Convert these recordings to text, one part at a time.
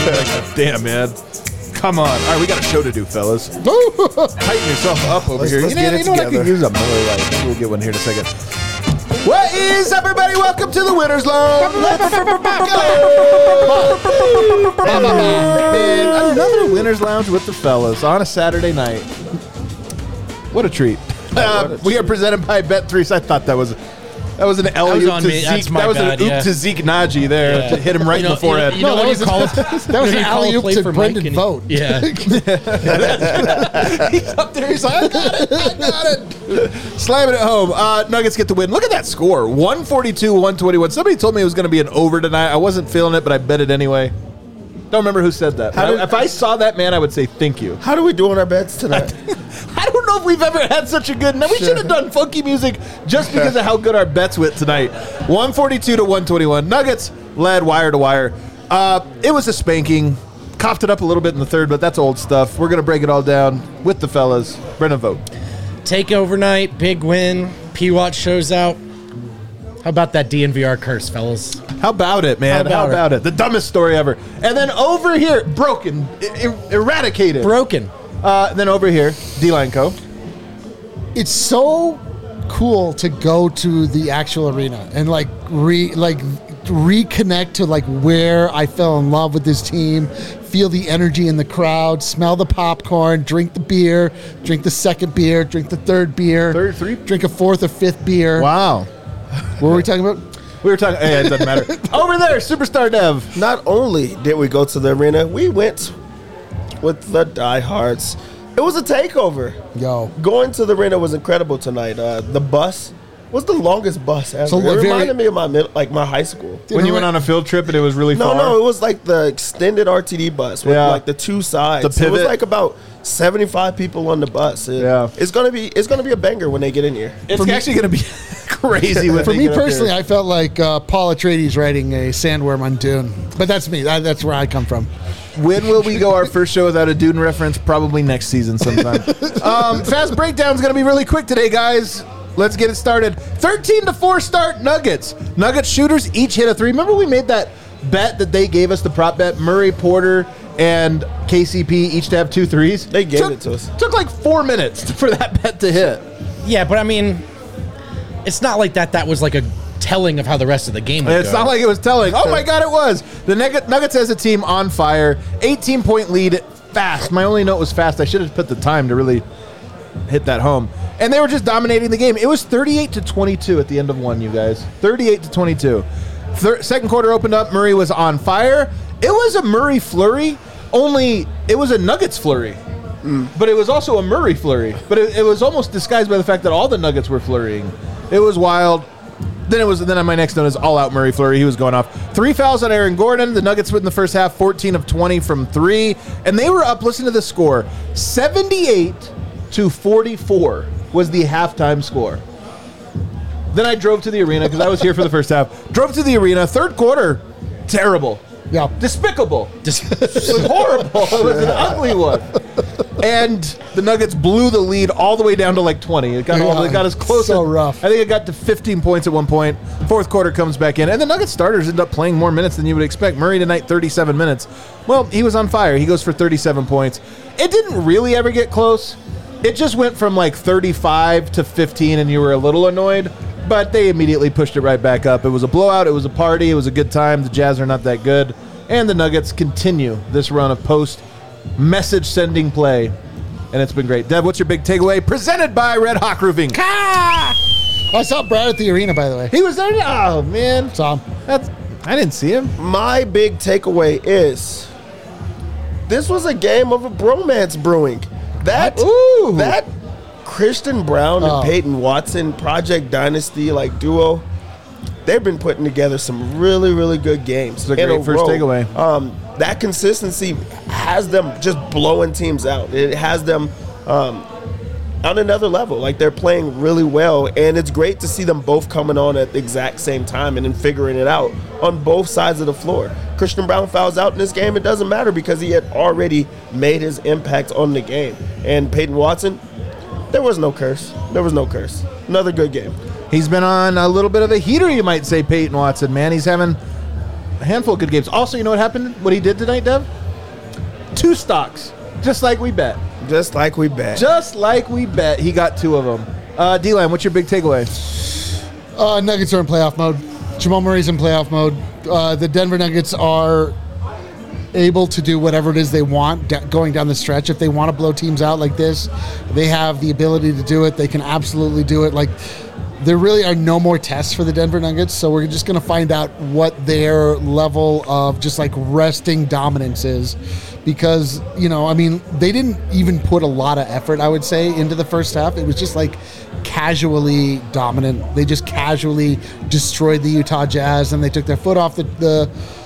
Damn, man. Come on. All right, we got a show to do, fellas. Tighten yourself up over here. Let's You know what? I could use a Miller Lite. Maybe we'll get one here in a second. What is up, everybody? Welcome to the Winner's Lounge. Another Winner's Lounge with the fellas on a Saturday night. What a treat. We are presented by Bet3. I thought that was an alley-oop to Zeke. That was an oop to Zeke Najee there to hit him right in the forehead. You know what you call it? That was an alley-oop to Brendan Vogt. Yeah. He's up there. He's like, I got it. Slamming it home. Nuggets get the win. Look at that score. 142-121. Somebody told me it was going to be an over tonight. I wasn't feeling it, but I bet it anyway. Don't remember who said that. If I saw that, man, I would say thank you. How do we do on our bets tonight? I don't know if we've ever had such a good. Now we should have done funky music just because of how good our bets went tonight. 142-121. Nuggets led wire to wire. It was a spanking. Coughed it up a little bit in the third, but that's old stuff. We're gonna break it all down with the fellas. Brendan Vogt. Take overnight, big win. P-Watch shows out. How about that DNVR curse, fellas? How about it, man? How about it? The dumbest story ever. And then over here, broken, eradicated. Broken. Then over here, D-Line Co. It's so cool to go to the actual arena and reconnect to like where I fell in love with this team, feel the energy in the crowd, smell the popcorn, drink the beer, drink the second beer, drink the third beer, drink a fourth or fifth beer. Wow. What were we talking about? We were talking. It doesn't matter. Over there, Superstar Dev. Not only did we go to the arena, we went with the diehards. It was a takeover. Yo. Going to the arena was incredible tonight. The bus was the longest bus ever. So it reminded me of my high school. When you went on a field trip and it was really far? No, it was like the extended RTD bus with like the two sides. The pivot. It was like about 75 people on the bus. It's gonna be a banger when they get in here. It's actually gonna be crazy. For me personally, I felt like Paul Atreides riding a sandworm on Dune. But that's me. That's where I come from. When will we go our first show without a Dune reference? Probably next season sometime. Fast breakdown's going to be really quick today, guys. Let's get it started. 13-4 start Nuggets. Nuggets shooters each hit a three. Remember we made that bet that they gave us, the prop bet? Murray, Porter, and KCP each to have 2 threes. They gave it to us. Took like 4 minutes for that bet to hit. Yeah, but I mean, it's not like that was like a telling of how the rest of the game would It's go. not like it was telling. Oh, my God, it was. The Nuggets as a team on fire. 18-point lead fast. My only note was fast. I should have put the time to really hit that home. And they were just dominating the game. It was 38-22 at the end of one, you guys. 38-22. Second quarter opened up. Murray was on fire. It was a Murray flurry, only it was a Nuggets flurry. But it was also a Murray flurry. But it was almost disguised by the fact that all the Nuggets were flurrying. It was wild. Then on my next note is all-out Murray flurry. He was going off. 3 fouls on Aaron Gordon. The Nuggets went in the first half 14 of 20 from 3. And they were up, listen to the score, 78-44 was the halftime score. Then I drove to the arena because I was here for the first half. Drove to the arena. Third quarter, terrible. Yeah. Despicable. It was horrible. It was an ugly one. And the Nuggets blew the lead all the way down to like 20. It got as close. So rough. I think it got to 15 points at one point. Fourth quarter comes back in. And the Nuggets starters end up playing more minutes than you would expect. Murray tonight, 37 minutes. Well, he was on fire. He goes for 37 points. It didn't really ever get close. It just went from like 35 to 15 and you were a little annoyed. But they immediately pushed it right back up. It was a blowout. It was a party. It was a good time. The Jazz are not that good. And the Nuggets continue this run of post-message sending play. And it's been great. Dev, what's your big takeaway? Presented by Red Hawk Roofing. I saw Brad at the arena, by the way. He was there? Oh, man. Saw him. I didn't see him. My big takeaway is this was a game of a bromance brewing. That Christian Brown and Peyton Watson Project Dynasty like duo, they've been putting together some really, really good games. It's a great first takeaway. That consistency has them just blowing teams out. It has them on another level. Like, they're playing really well, and it's great to see them both coming on at the exact same time and then figuring it out on both sides of the floor. Christian Brown fouls out in this game. It doesn't matter because he had already made his impact on the game. And Peyton Watson, there was no curse. There was no curse. Another good game. He's been on a little bit of a heater, you might say, Peyton Watson, man. He's having A handful of good games. Also, you know what happened? What he did tonight, Dev? 2 stocks. Just like we bet. Just like we bet. Just like we bet. He got 2 of them. D-Line, what's your big takeaway? Nuggets are in playoff mode. Jamal Murray's in playoff mode. The Denver Nuggets are able to do whatever it is they want going down the stretch. If they want to blow teams out like this, they have the ability to do it. They can absolutely do it. Like, there really are no more tests for the Denver Nuggets, so we're just going to find out what their level of just like resting dominance is. Because, you know, I mean, they didn't even put a lot of effort, I would say, into the first half. It was just like casually dominant. They just casually destroyed the Utah Jazz, and they took their foot off the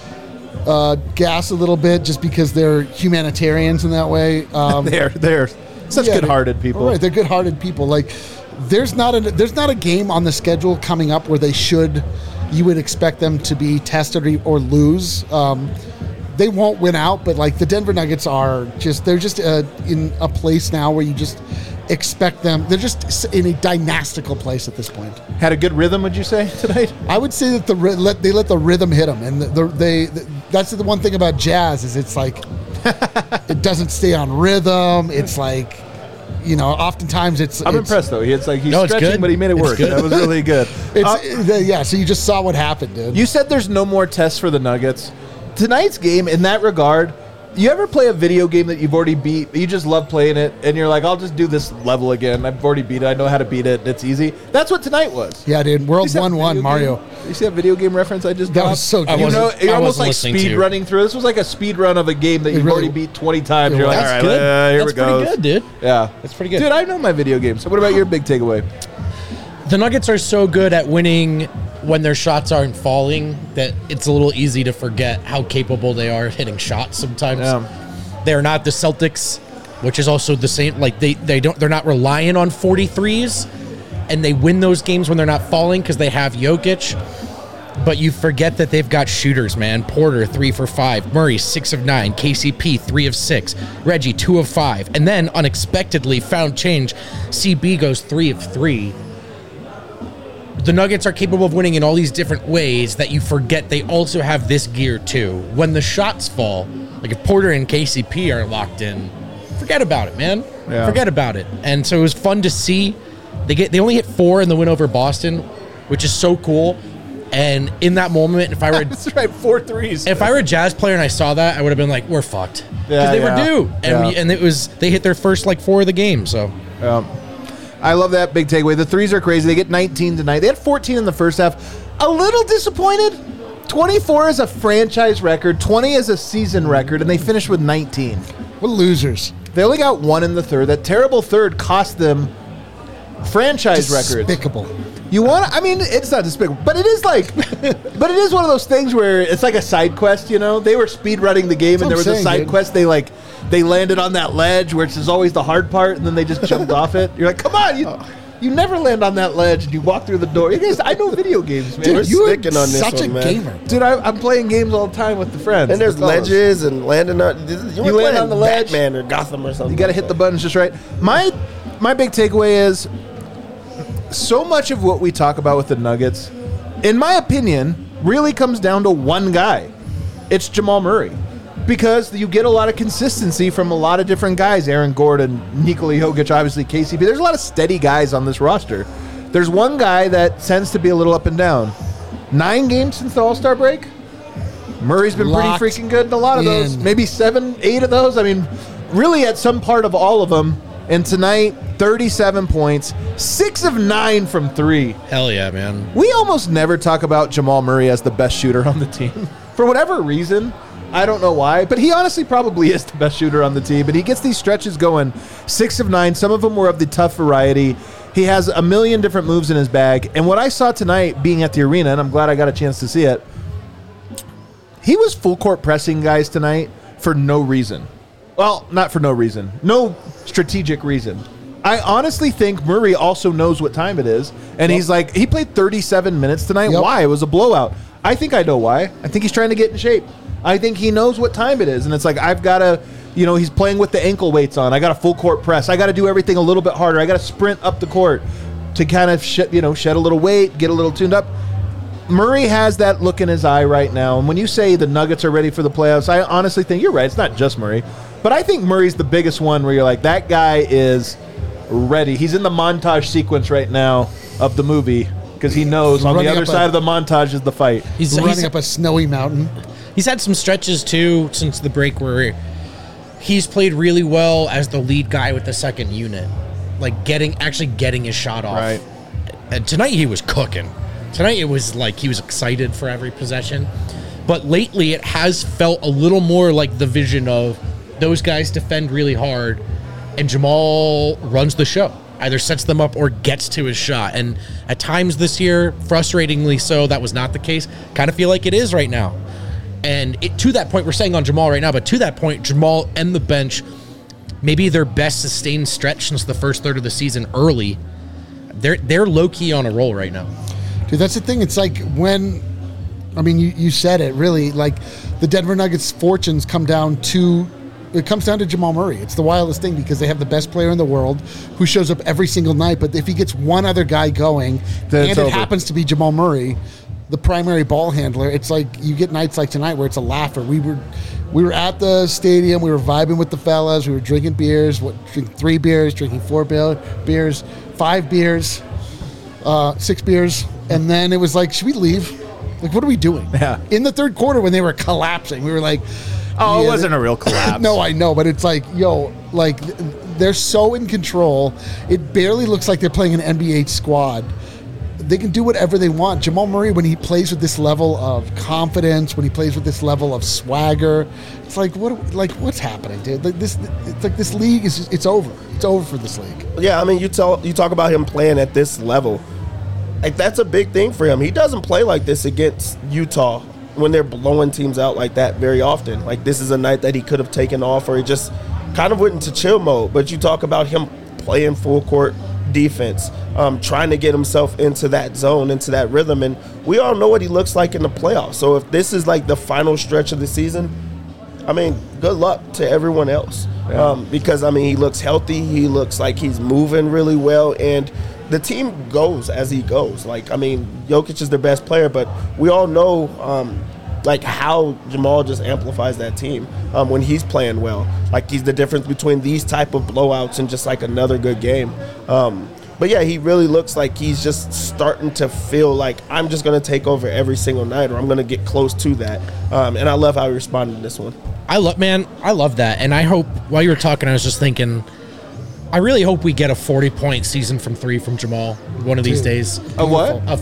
gas a little bit just because they're humanitarians in that way. They're such good-hearted people. Right, they're good-hearted people. Like, there's not a game on the schedule coming up where you would expect them to be tested or lose. They won't win out, but like the Denver Nuggets they're just in a place now where you just expect them. They're just in a dynastical place at this point. Had a good rhythm, would you say, tonight? I would say that they let the rhythm hit them, and that's the one thing about jazz is it's like it doesn't stay on rhythm. It's like, you know, oftentimes I'm impressed though. He's stretching, good. but he made it work. That was really good. So you just saw what happened, dude. You said there's no more tests for the Nuggets. Tonight's game, in that regard, you ever play a video game that you've already beat, you just love playing it, and you're like, I'll just do this level again. I've already beat it. I know how to beat it. It's easy. That's what tonight was. Yeah, dude. World 1-1, Mario. You see that video game reference I just got? That was so good. You're almost like speed running through. This was like a speed run of a game that you've already beat 20 times. You're like, all right, here we go. That's pretty good, dude. Yeah. That's pretty good. Dude, I know my video games. So what about your big takeaway? The Nuggets are so good at winning when their shots aren't falling that it's a little easy to forget how capable they are of hitting shots sometimes. Yeah. They're not the Celtics, which is also the same. Like they're not relying on 43s, and they win those games when they're not falling because they have Jokic. But you forget that they've got shooters, man. Porter 3 for 5, Murray 6 of 9, KCP 3 of 6, Reggie 2 of 5, and then unexpectedly found change. CB goes 3 of 3. The Nuggets are capable of winning in all these different ways that you forget they also have this gear too. When the shots fall, like if Porter and KCP are locked in, forget about it, man. Yeah. Forget about it. And so it was fun to see. They only hit 4 in the win over Boston, which is so cool. And in that moment, if I were that's right, 4 threes. If I were a Jazz player and I saw that, I would have been like, "We're fucked," because they were due, and they hit their first like 4 of the game. So. I love that big takeaway. The threes are crazy. They get 19 tonight. They had 14 in the first half. A little disappointed. 24 is a franchise record, 20 is a season record, and they finished with 19. What losers. They only got 1 in the third. That terrible third cost them franchise records. Despicable. It's not despicable, but it is like, but it is one of those things where it's like a side quest, you know? They were speed running the game, and there was a side quest. They landed on that ledge, which is always the hard part, and then they just jumped off it. You're like, come on, you never land on that ledge, and you walk through the door. You guys, I know video games, man. Dude, you're sticking on this such one, a man. gamer. Dude, I'm playing games all the time with the friends. And there's the fellas. ledges and landing on. You land on the ledge. Batman or Gotham or something. You got to hit the buttons just right. My big takeaway is so much of what we talk about with the Nuggets, in my opinion, really comes down to one guy. It's Jamal Murray. Because you get a lot of consistency from a lot of different guys. Aaron Gordon, Nikola Jokic, obviously KCP. There's a lot of steady guys on this roster. There's one guy that tends to be a little up and down. 9 games since the All-Star break. Murray's been Locked pretty freaking good in a lot of those. Maybe 7, 8 of those. I mean, really at some part of all of them. And tonight, 37 points, 6 of 9 from 3. Hell yeah, man. We almost never talk about Jamal Murray as the best shooter on the team. For whatever reason, I don't know why, but he honestly probably is the best shooter on the team. And he gets these stretches going, 6 of 9. Some of them were of the tough variety. He has a million different moves in his bag. And what I saw tonight being at the arena, and I'm glad I got a chance to see it, he was full court pressing guys tonight for no reason. Well, not for no reason. No strategic reason. I honestly think Murray also knows what time it is. And he's like, he played 37 minutes tonight. Yep. Why? It was a blowout. I think I know why. I think he's trying to get in shape. I think he knows what time it is. And it's like, I've got to, he's playing with the ankle weights on. I got a full court press. I got to do everything a little bit harder. I got to sprint up the court to kind of shed a little weight, get a little tuned up. Murray has that look in his eye right now. And when you say the Nuggets are ready for the playoffs, I honestly think you're right. It's not just Murray. But I think Murray's the biggest one where you're like, that guy is ready. He's in the montage sequence right now of the movie because he knows on the other side of the montage is the fight. He's running up a snowy mountain. He's had some stretches, too, since the break where he's played really well as the lead guy with the second unit. Like, actually getting his shot off. Right. And tonight he was cooking. Tonight it was like he was excited for every possession. But lately it has felt a little more like the vision of those guys defend really hard and Jamal runs the show. Either sets them up or gets to his shot. And at times this year, frustratingly so, that was not the case. Kind of feel like it is right now. And to that point, we're saying on Jamal right now, but to that point, Jamal and the bench, maybe their best sustained stretch since the first third of the season early. They're low-key on a roll right now. Dude, that's the thing. It's like when, I mean, you said it, really, like the Denver Nuggets' fortunes come down to, it comes down to Jamal Murray. It's the wildest thing because they have the best player in the world who shows up every single night, but if he gets one other guy going, and it happens to be Jamal Murray, the primary ball handler, it's like you get nights like tonight where it's a laugher. We were at the stadium, we were vibing with the fellas, we were drinking beers, drinking 3 beers, drinking 4 beers, 5 beers, 6 beers, and then it was like, should we leave? Like, what are we doing? Yeah. In the third quarter when they were collapsing, we were like, oh, it wasn't a real collapse. No, I know, but it's like, yo, like, they're so in control. It barely looks like they're playing an NBA squad. They can do whatever they want. Jamal Murray, when he plays with this level of confidence, when he plays with this level of swagger, it's like, what's happening, dude? Like this, it's like this league is it's over. It's over for this league. Yeah, I mean, you talk about him playing at this level. Like, that's a big thing for him. He doesn't play like this against Utah when they're blowing teams out like that very often. Like, this is a night that he could have taken off, or he just kind of went into chill mode. But you talk about him playing full court defense, trying to get himself into that zone, into that rhythm, and we all know what he looks like in the playoffs. So if this is like the final stretch of the season, I mean, good luck to everyone else. Yeah. Because, I mean, he looks healthy, he looks like he's moving really well, and the team goes as he goes. Like, I mean, Jokic is their best player, but we all know like how Jamal just amplifies that team when he's playing well. Like, he's the difference between these type of blowouts and just like another good game. But yeah, he really looks like he's just starting to feel like, I'm just going to take over every single night, or I'm going to get close to that. And I love how he responded to this one. I love that. And I hope, while you were talking, I was just thinking, I really hope we get a 40-point season from 3 from Jamal one of these days. A what? A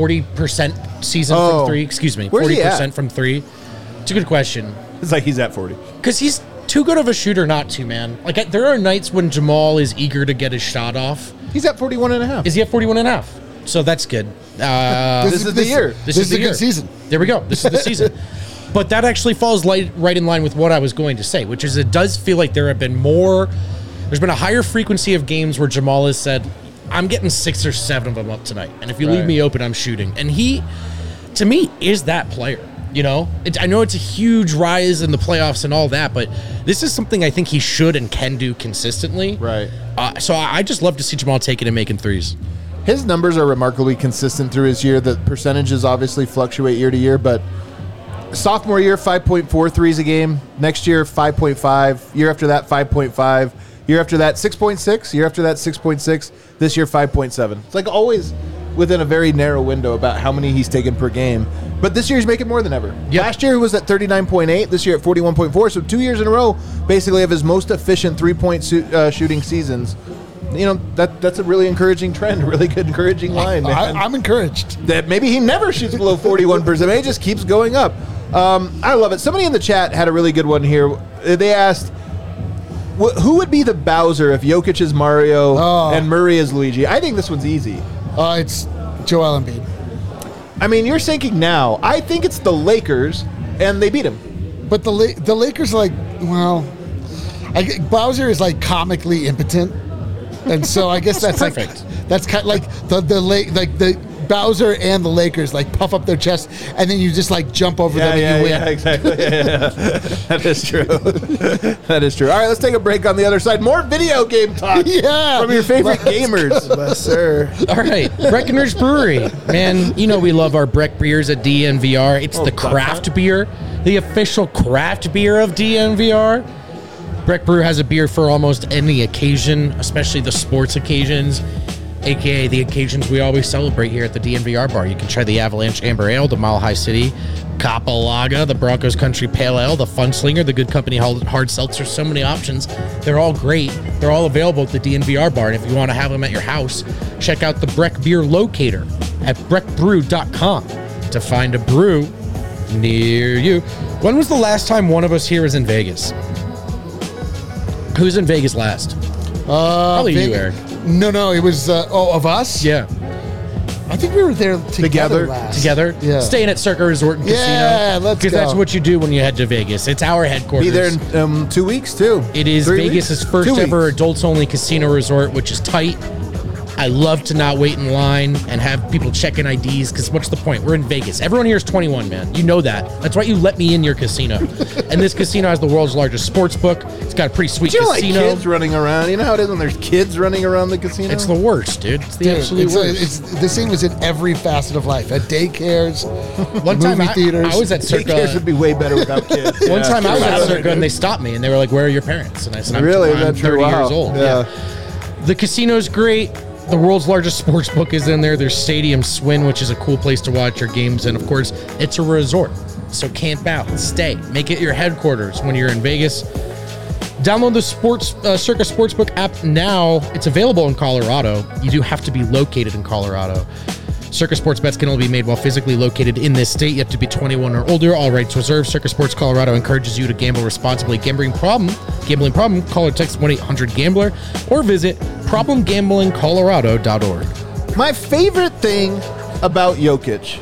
40% season from 3. Excuse me. Where's 40% from 3. It's a good question. It's like he's at 40. Because he's too good of a shooter not to, man. Like, there are nights when Jamal is eager to get his shot off. He's at 41.5. Is he at 41.5? So that's good. This is the year. This is the good season. There we go. This is the season. But that actually falls right in line with what I was going to say, which is it does feel like there's been a higher frequency of games where Jamal has said, I'm getting 6 or 7 of them up tonight. And if you leave me open, I'm shooting. And he, to me, is that player. You know, I know it's a huge rise in the playoffs and all that, but this is something I think he should and can do consistently. Right. So I just love to see Jamal taking and making threes. His numbers are remarkably consistent through his year. The percentages obviously fluctuate year to year, but sophomore year, 5.4 threes a game. Next year, 5.5. Year after that, 5.5. Year after that, 6.6. Year after that, 6.6. This year, 5.7. It's like always within a very narrow window about how many he's taken per game. But this year he's making more than ever. Yep. Last year he was at 39.8. This year at 41.4. So 2 years in a row, basically, of his most efficient three-point shooting seasons. You know, that's a really encouraging trend, a really good encouraging line. I'm encouraged. That maybe he never shoots below 41%. Maybe he just keeps going up. I love it. Somebody in the chat had a really good one here. They asked, who would be the Bowser if Jokic is Mario and Murray is Luigi? I think this one's easy. It's Joel Embiid. I mean, you're thinking now. I think it's the Lakers, and they beat him. But the Lakers are like, well, Bowser is like comically impotent, and so I guess that's perfect. Like, that's kind of like the Bowser and the Lakers like puff up their chest, and then you just like jump over them and you win. Yeah, exactly. Yeah. That is true. That is true. All right, let's take a break on the other side. More video game talk Yeah. from your favorite gamers. Yes, sir. All right, Breckenridge Brewery. Man, you know we love our Breck beers at DNVR. It's the craft beer, the official craft beer of DNVR. Breck Brew has a beer for almost any occasion, especially the sports occasions, aka the occasions we always celebrate here at the DNVR bar. You can try the Avalanche Amber Ale, the Mile High City Kapalaga, the Broncos Country Pale Ale, the Fun Slinger, the Good Company Hard Seltzer. So many options. They're all great. They're all available at the DNVR bar. And if you want to have them at your house, check out the Breck Beer Locator at breckbrew.com to find a brew near you. When was the last time one of us here was in Vegas? Who's in Vegas last? Probably you, Eric. No, it was of us. Yeah. I think we were there together. Last. Together? Yeah. Staying at Circa Resort and Casino. Yeah, let's Because go. that's what you do when you head to Vegas. It's our headquarters. Be there in 2 weeks, too. It is 3 Vegas's weeks? first 2 ever weeks. adults-only casino resort, which is tight. I love to not wait in line and have people check in IDs, because what's the point? We're in Vegas. Everyone here is 21, man. You know that. That's why you let me in your casino. And this casino has the world's largest sports book. It's got a pretty sweet Do you like casino. kids running around? You know how it is when there's kids running around the casino? It's the worst, dude. It's the Dude, absolute worst. this thing was in every facet of life. At daycares, One time movie theaters. I was at Daycares Circa. would be way better without kids. One Yeah. time I was at Circa and they stopped me and they were like, "Where are your parents?" And I said, Really? I'm That's 30 wow. years old." Yeah. The casino's great. The world's largest sports book is in there. There's Stadium Swin, which is a cool place to watch your games. And of course, it's a resort. So camp out, stay. Make it your headquarters when you're in Vegas. Download the Circa Sportsbook app now. It's available in Colorado. You do have to be located in Colorado. Circa Sports bets can only be made while physically located in this state. You have to be 21 or older. All rights reserved. Circa Sports Colorado encourages you to gamble responsibly. Gambling problem? Call or text 1-800-GAMBLER or visit problemgamblingcolorado.org. My favorite thing about Jokic,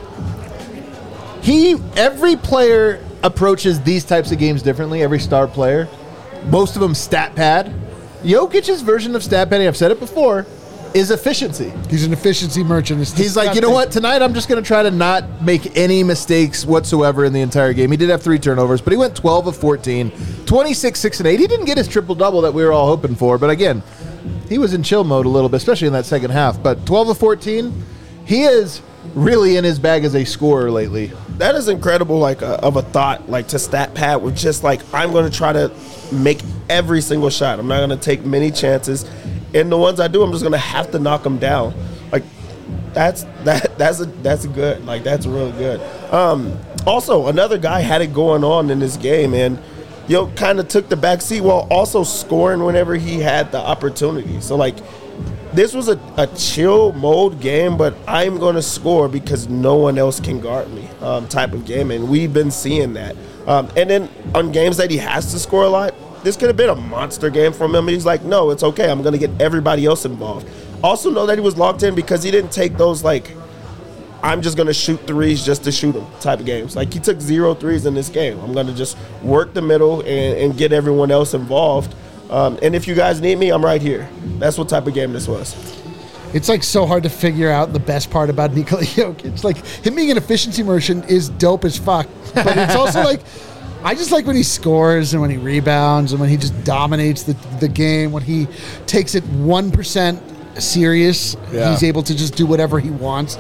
every player approaches these types of games differently, every star player. Most of them stat pad. Jokic's version of stat padding, I've said it before, is efficiency. He's an efficiency merchant. He's like, you know what? Tonight I'm just going to try to not make any mistakes whatsoever in the entire game. He did have 3 turnovers, but he went 12 of 14, 26, 6, and 8. He didn't get his triple-double that we were all hoping for, but again, he was in chill mode a little bit, especially in that second half. But 12 of 14, he is really in his bag as a scorer lately. That is incredible, of a thought, to stat pad with just I'm going to try to make every single shot. I'm not going to take many chances. And the ones I do, I'm just gonna have to knock them down. That's good. That's really good. Also, another guy had it going on in this game, and kind of took the back seat while also scoring whenever he had the opportunity. So this was a chill mode game, but I'm gonna score because no one else can guard me type of game, and we've been seeing that. And then on games that he has to score a lot, this could have been a monster game from him. He's like, no, it's okay. I'm going to get everybody else involved. Also know that he was locked in because he didn't take those, I'm just going to shoot threes just to shoot them type of games. He took 0 threes in this game. I'm going to just work the middle and get everyone else involved. And if you guys need me, I'm right here. That's what type of game this was. It's so hard to figure out the best part about Nikola Jokic. Him being an efficiency merchant is dope as fuck. But it's also I just like when he scores and when he rebounds and when he just dominates the game, when he takes it 1% serious. Yeah. He's able to just do whatever he wants.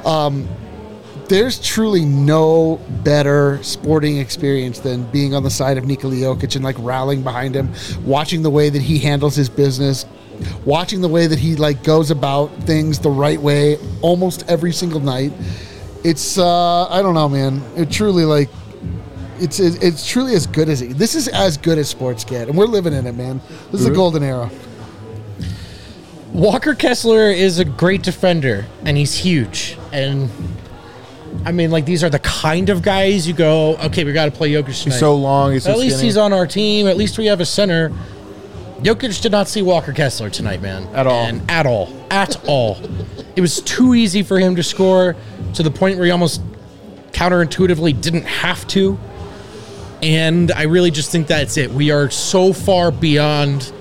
There's truly no better sporting experience than being on the side of Nikola Jokic and rallying behind him, watching the way that he handles his business, watching the way that he goes about things the right way almost every single night. It's I don't know, man. It truly It's truly as good as this is as good as sports get, and we're living in it, man. This is the golden era. Walker Kessler is a great defender, and he's huge. And I mean, these are the kind of guys you go, okay, we got to play Jokic tonight. He's so long. He's so At least skinny. he's on our team. At least we have a center. Jokic did not see Walker Kessler tonight, man. At all. And at all. It was too easy for him to score to the point where he almost counterintuitively didn't have to. And I really just think that's it. We are so far beyond.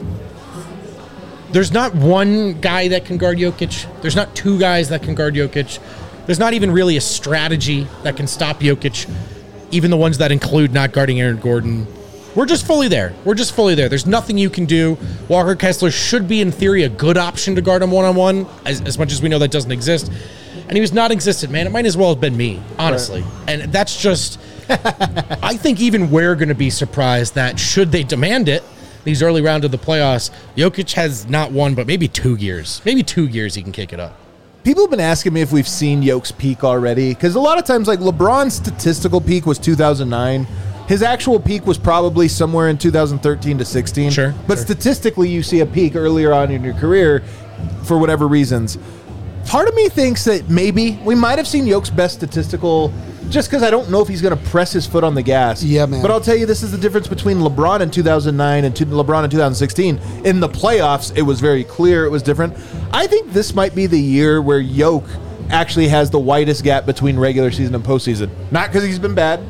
There's not one guy that can guard Jokic. There's not 2 guys that can guard Jokic. There's not even really a strategy that can stop Jokic, even the ones that include not guarding Aaron Gordon. We're just fully there. There's nothing you can do. Walker Kessler should be, in theory, a good option to guard him one-on-one, as much as we know that doesn't exist. And he was non-existent, man. It might as well have been me, honestly. Right. And that's just... I think even we're going to be surprised that, should they demand it, these early rounds of the playoffs, Jokic has not one, but maybe 2 years. Maybe 2 years he can kick it up. People have been asking me if we've seen Jokic's peak already, because a lot of times, like, LeBron's statistical peak was 2009. His actual peak was probably somewhere in 2013 to 16. Sure. But statistically, you see a peak earlier on in your career for whatever reasons. Part of me thinks that maybe we might have seen Jokic's best statistical, just because I don't know if he's going to press his foot on the gas. Yeah, man. But I'll tell you, this is the difference between LeBron in 2009 and LeBron in 2016. In the playoffs, it was very clear it was different. I think this might be the year where Jokic actually has the widest gap between regular season and postseason. Not because he's been bad,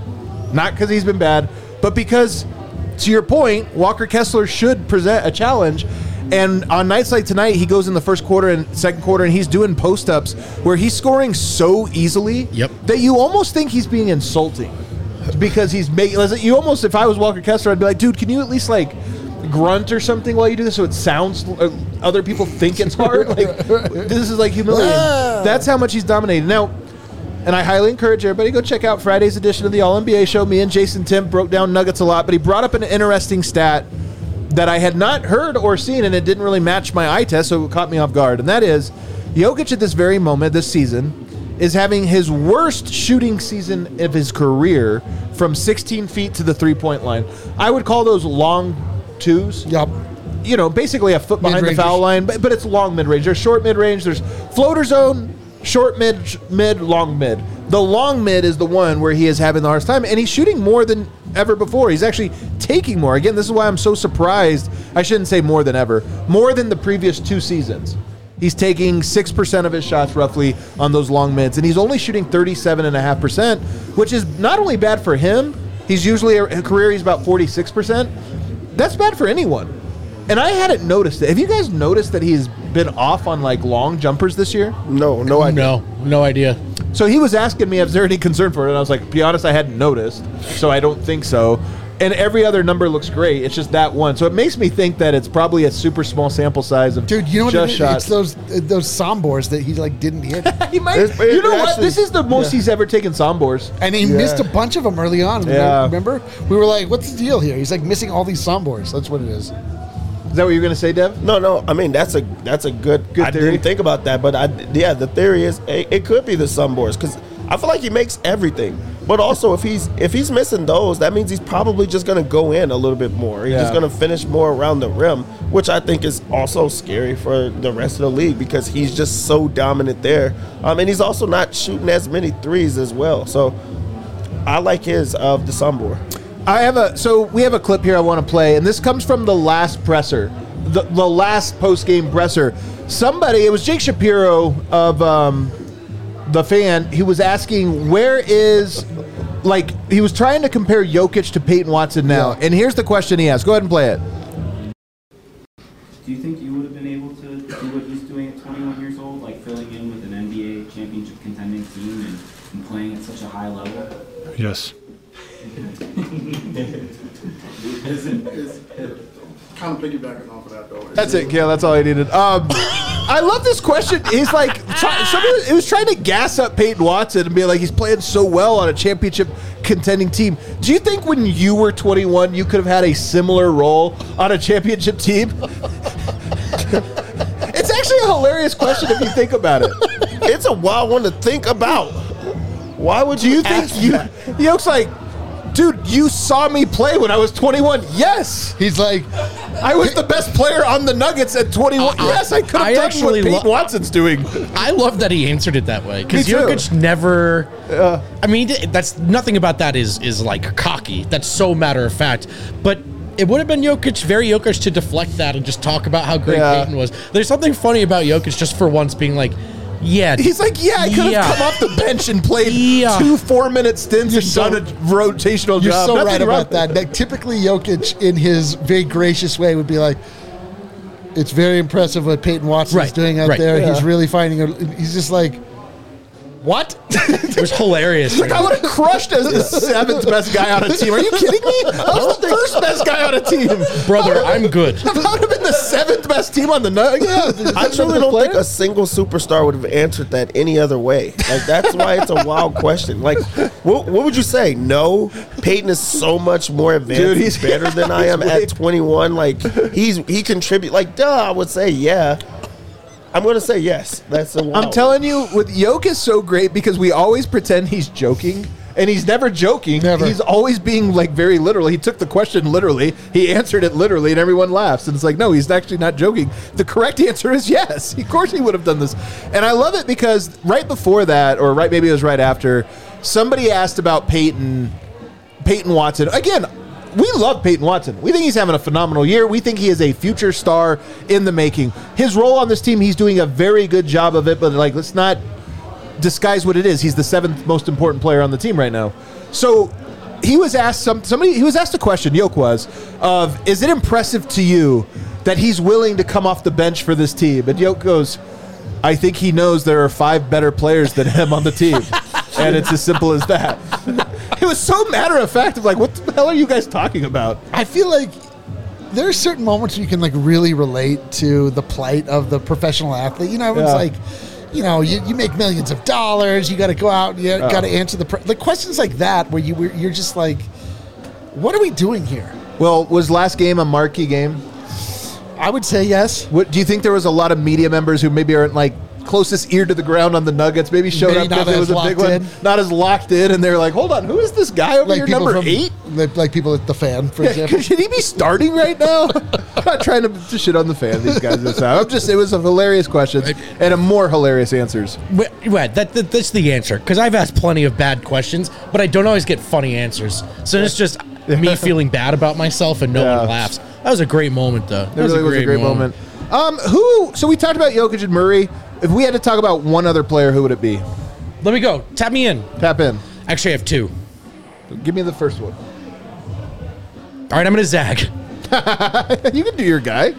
but because, to your point, Walker Kessler should present a challenge. And on nights like tonight, he goes in the first quarter and second quarter, and he's doing post-ups where he's scoring so easily that you almost think he's being insulting because he's making. You almost, if I was Walker Kessler, I'd be like, dude, can you at least like grunt or something while you do this so it sounds other people think it's hard? Like, this is like humiliating. That's how much he's dominated now. And I highly encourage everybody to go check out Friday's edition of the All-NBA Show. Me and Jason Tim broke down Nuggets a lot, but he brought up an interesting stat that I had not heard or seen, and it didn't really match my eye test, so it caught me off guard. And that is, Jokic at this very moment, this season, is having his worst shooting season of his career from 16 feet to the three-point line. I would call those long twos. Yep. You know, basically a foot behind Mid-range. the foul line, but it's long mid-range. There's short mid-range, there's floater zone, short mid, long mid. The long mid is the one where he is having the hardest time, and he's shooting more than ever before. He's actually taking more. Again, this is why I'm so surprised. I shouldn't say more than ever. More than the previous 2 seasons. He's taking 6% of his shots roughly on those long mids, and he's only shooting 37.5%, which is not only bad for him. He's usually a career, he's about 46%. That's bad for anyone. And I hadn't noticed it. Have you guys noticed that he's been off on like long jumpers this year? No idea. No idea. So he was asking me, is there any concern for it? And I was like, to be honest, I hadn't noticed, so I don't think so. And every other number looks great. It's just that one. So it makes me think that it's probably a super small sample size of Dude, you know what just it is? shots. It's those sombors that he like didn't hit. He might. You know what? This is the most he's ever taken sombors. And he missed a bunch of them early on. Yeah. Remember? We were like, what's the deal here? He's like missing all these sombors. That's what it is. Is that what you're going to say, Dev? No. I mean, that's a good theory. I didn't think about that, but the theory is it could be the sunboards because I feel like he makes everything. But also, if he's missing those, that means he's probably just going to go in a little bit more. He's just going to finish more around the rim, which I think is also scary for the rest of the league because he's just so dominant there. And he's also not shooting as many threes as well. So I like his of the sunboard. We have a clip here I want to play, and this comes from the last presser, the last post-game presser. It was Jake Shapiro of The Fan. He was asking, he was trying to compare Jokic to Peyton Watson now, and here's the question he asked. Go ahead and play it. Do you think you would have been able to do what he's doing at 21 years old, like filling in with an NBA championship contending team and playing at such a high level? Yes. Kind of piggybacking off of that, though. That's it, Kale. That's all I needed. I love this question. He's like, it was trying to gas up Peyton Watson and be like, he's playing so well on a championship contending team. Do you think when you were 21, you could have had a similar role on a championship team? It's actually a hilarious question if you think about it. It's a wild one to think about. Why would you think Yoke's like, dude, you saw me play when I was 21. Yes. He's like, I was the best player on the Nuggets at 21. Yes, I could have done what Peyton Watson's doing. I love that he answered it that way because Me too. Jokic never. I mean, that's nothing about that is like cocky. That's so matter of fact. But it would have been very Jokic to deflect that and just talk about how great Peyton was. There's something funny about Jokic just for once being like, yeah. He's like, I could have come off the bench and played 2 4-minute stints and done a rotational you're job. so Nothing right wrong about that. Like, typically, Jokic, in his very gracious way, would be like, it's very impressive what Peyton Watson is doing out there. Yeah. He's really finding he's just like, What? It was hilarious. Like, I would have crushed as the 7th best guy on a team. Are you kidding me? I was the first best guy on a team. Brother, I'm good. I would have been the 7th best team on the Nuggets. Yeah, I truly don't think a single superstar would have answered that any other way. Like, that's why it's a wild question. Like, what would you say? No, Peyton is so much more advanced. Dude, he's better than I am at 21. Like, he contribute. Like, I would say yeah. I'm going to say yes. That's a wild. I'm telling you, with Jokic is so great because we always pretend he's joking. And he's never joking. Never. He's always being like very literal. He took the question literally. He answered it literally, and everyone laughs. And it's like, no, he's actually not joking. The correct answer is yes. Of course he would have done this. And I love it because right before that, or maybe it was right after, somebody asked about Peyton Watson. Again, we love Peyton Watson. We think he's having a phenomenal year. We think he is a future star in the making. His role on this team, he's doing a very good job of it, but like, let's not disguise what it is. He's the 7th most important player on the team right now. So he was asked he was asked a question, Yoke was, of is it impressive to you that he's willing to come off the bench for this team? And Yoke goes, I think he knows there are 5 better players than him on the team. And it's as simple as that. It was so matter of fact of like, what the hell are you guys talking about? I feel like there are certain moments where you can like really relate to the plight of the professional athlete. You know, everyone's like, you know, you make millions of dollars. You got to go out. And you got to answer the questions like that where you're just like, what are we doing here? Well, was last game a marquee game? I would say yes. What do you think? There was a lot of media members who maybe aren't like closest ear to the ground on the Nuggets, maybe showed Maybe up not because it as was a big locked one, in. not as locked in, and they're like, hold on, who is this guy over here, people number from- 8? like people at the Fan, for example. Should he be starting right now? I'm not trying to shit on the Fan. These guys this time. It was a hilarious question and a more hilarious answers. Right, that's the answer. Because I've asked plenty of bad questions, but I don't always get funny answers. So it's just me feeling bad about myself and no one laughs. That was a great moment, though. It really was a great moment. So we talked about Jokic and Murray. If we had to talk about one other player, who would it be? Let me go. Tap me in. Tap in. Actually, I have 2. Give me the first one. All right, I'm going to zag. You can do your guy.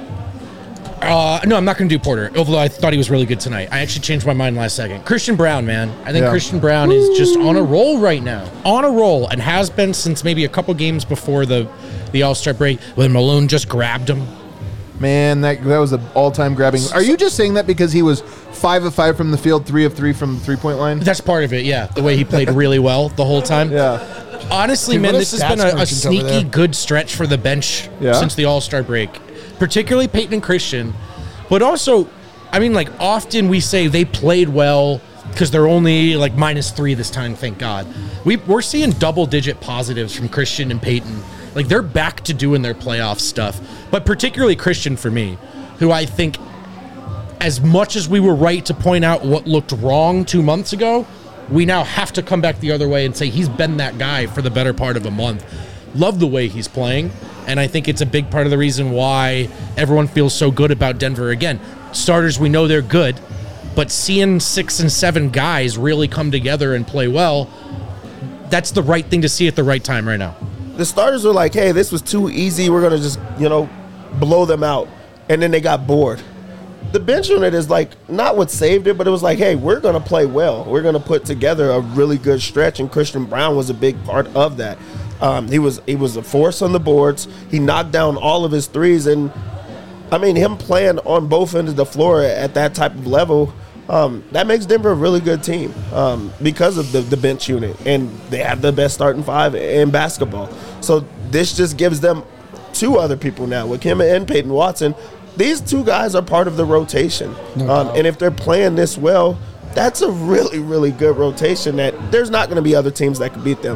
No, I'm not going to do Porter, although I thought he was really good tonight. I actually changed my mind last second. Christian Brown, man. I think Christian Brown is just on a roll right now. On a roll, and has been since maybe a couple games before the All-Star break when Malone just grabbed him. Man, that was an all-time grabbing. Are you just saying that because he was 5 of 5 from the field, 3 of 3 from the three-point line? That's part of it, yeah. The way he played really well the whole time. Yeah. Honestly, Dude, man, what this has stats been a merchants over sneaky there. good stretch for the bench since the All-Star break. Particularly Peyton and Christian. But also, I mean, like, often we say they played well because they're only, like, -3 this time, thank God. We're seeing double-digit positives from Christian and Peyton. Like, they're back to doing their playoff stuff. But particularly Christian for me, who I think, as much as we were right to point out what looked wrong 2 months ago, we now have to come back the other way and say he's been that guy for the better part of a month. Love the way he's playing, and I think it's a big part of the reason why everyone feels so good about Denver. Again, starters, we know they're good, but seeing 6 and 7 guys really come together and play well, that's the right thing to see at the right time right now. The starters were like, hey, this was too easy. We're going to just, blow them out. And then they got bored. The bench unit is like not what saved it, but it was like, hey, we're going to play well. We're going to put together a really good stretch, and Christian Brown was a big part of that. He was a force on the boards. He knocked down all of his threes, and I mean, him playing on both ends of the floor at that type of level, that makes Denver a really good team because of the bench unit, and they have the best starting 5 in basketball. So this just gives them 2 other people now with him and Peyton Watson. These 2 guys are part of the rotation, and if they're playing this well, that's a really, really good rotation that there's not going to be other teams that can beat them.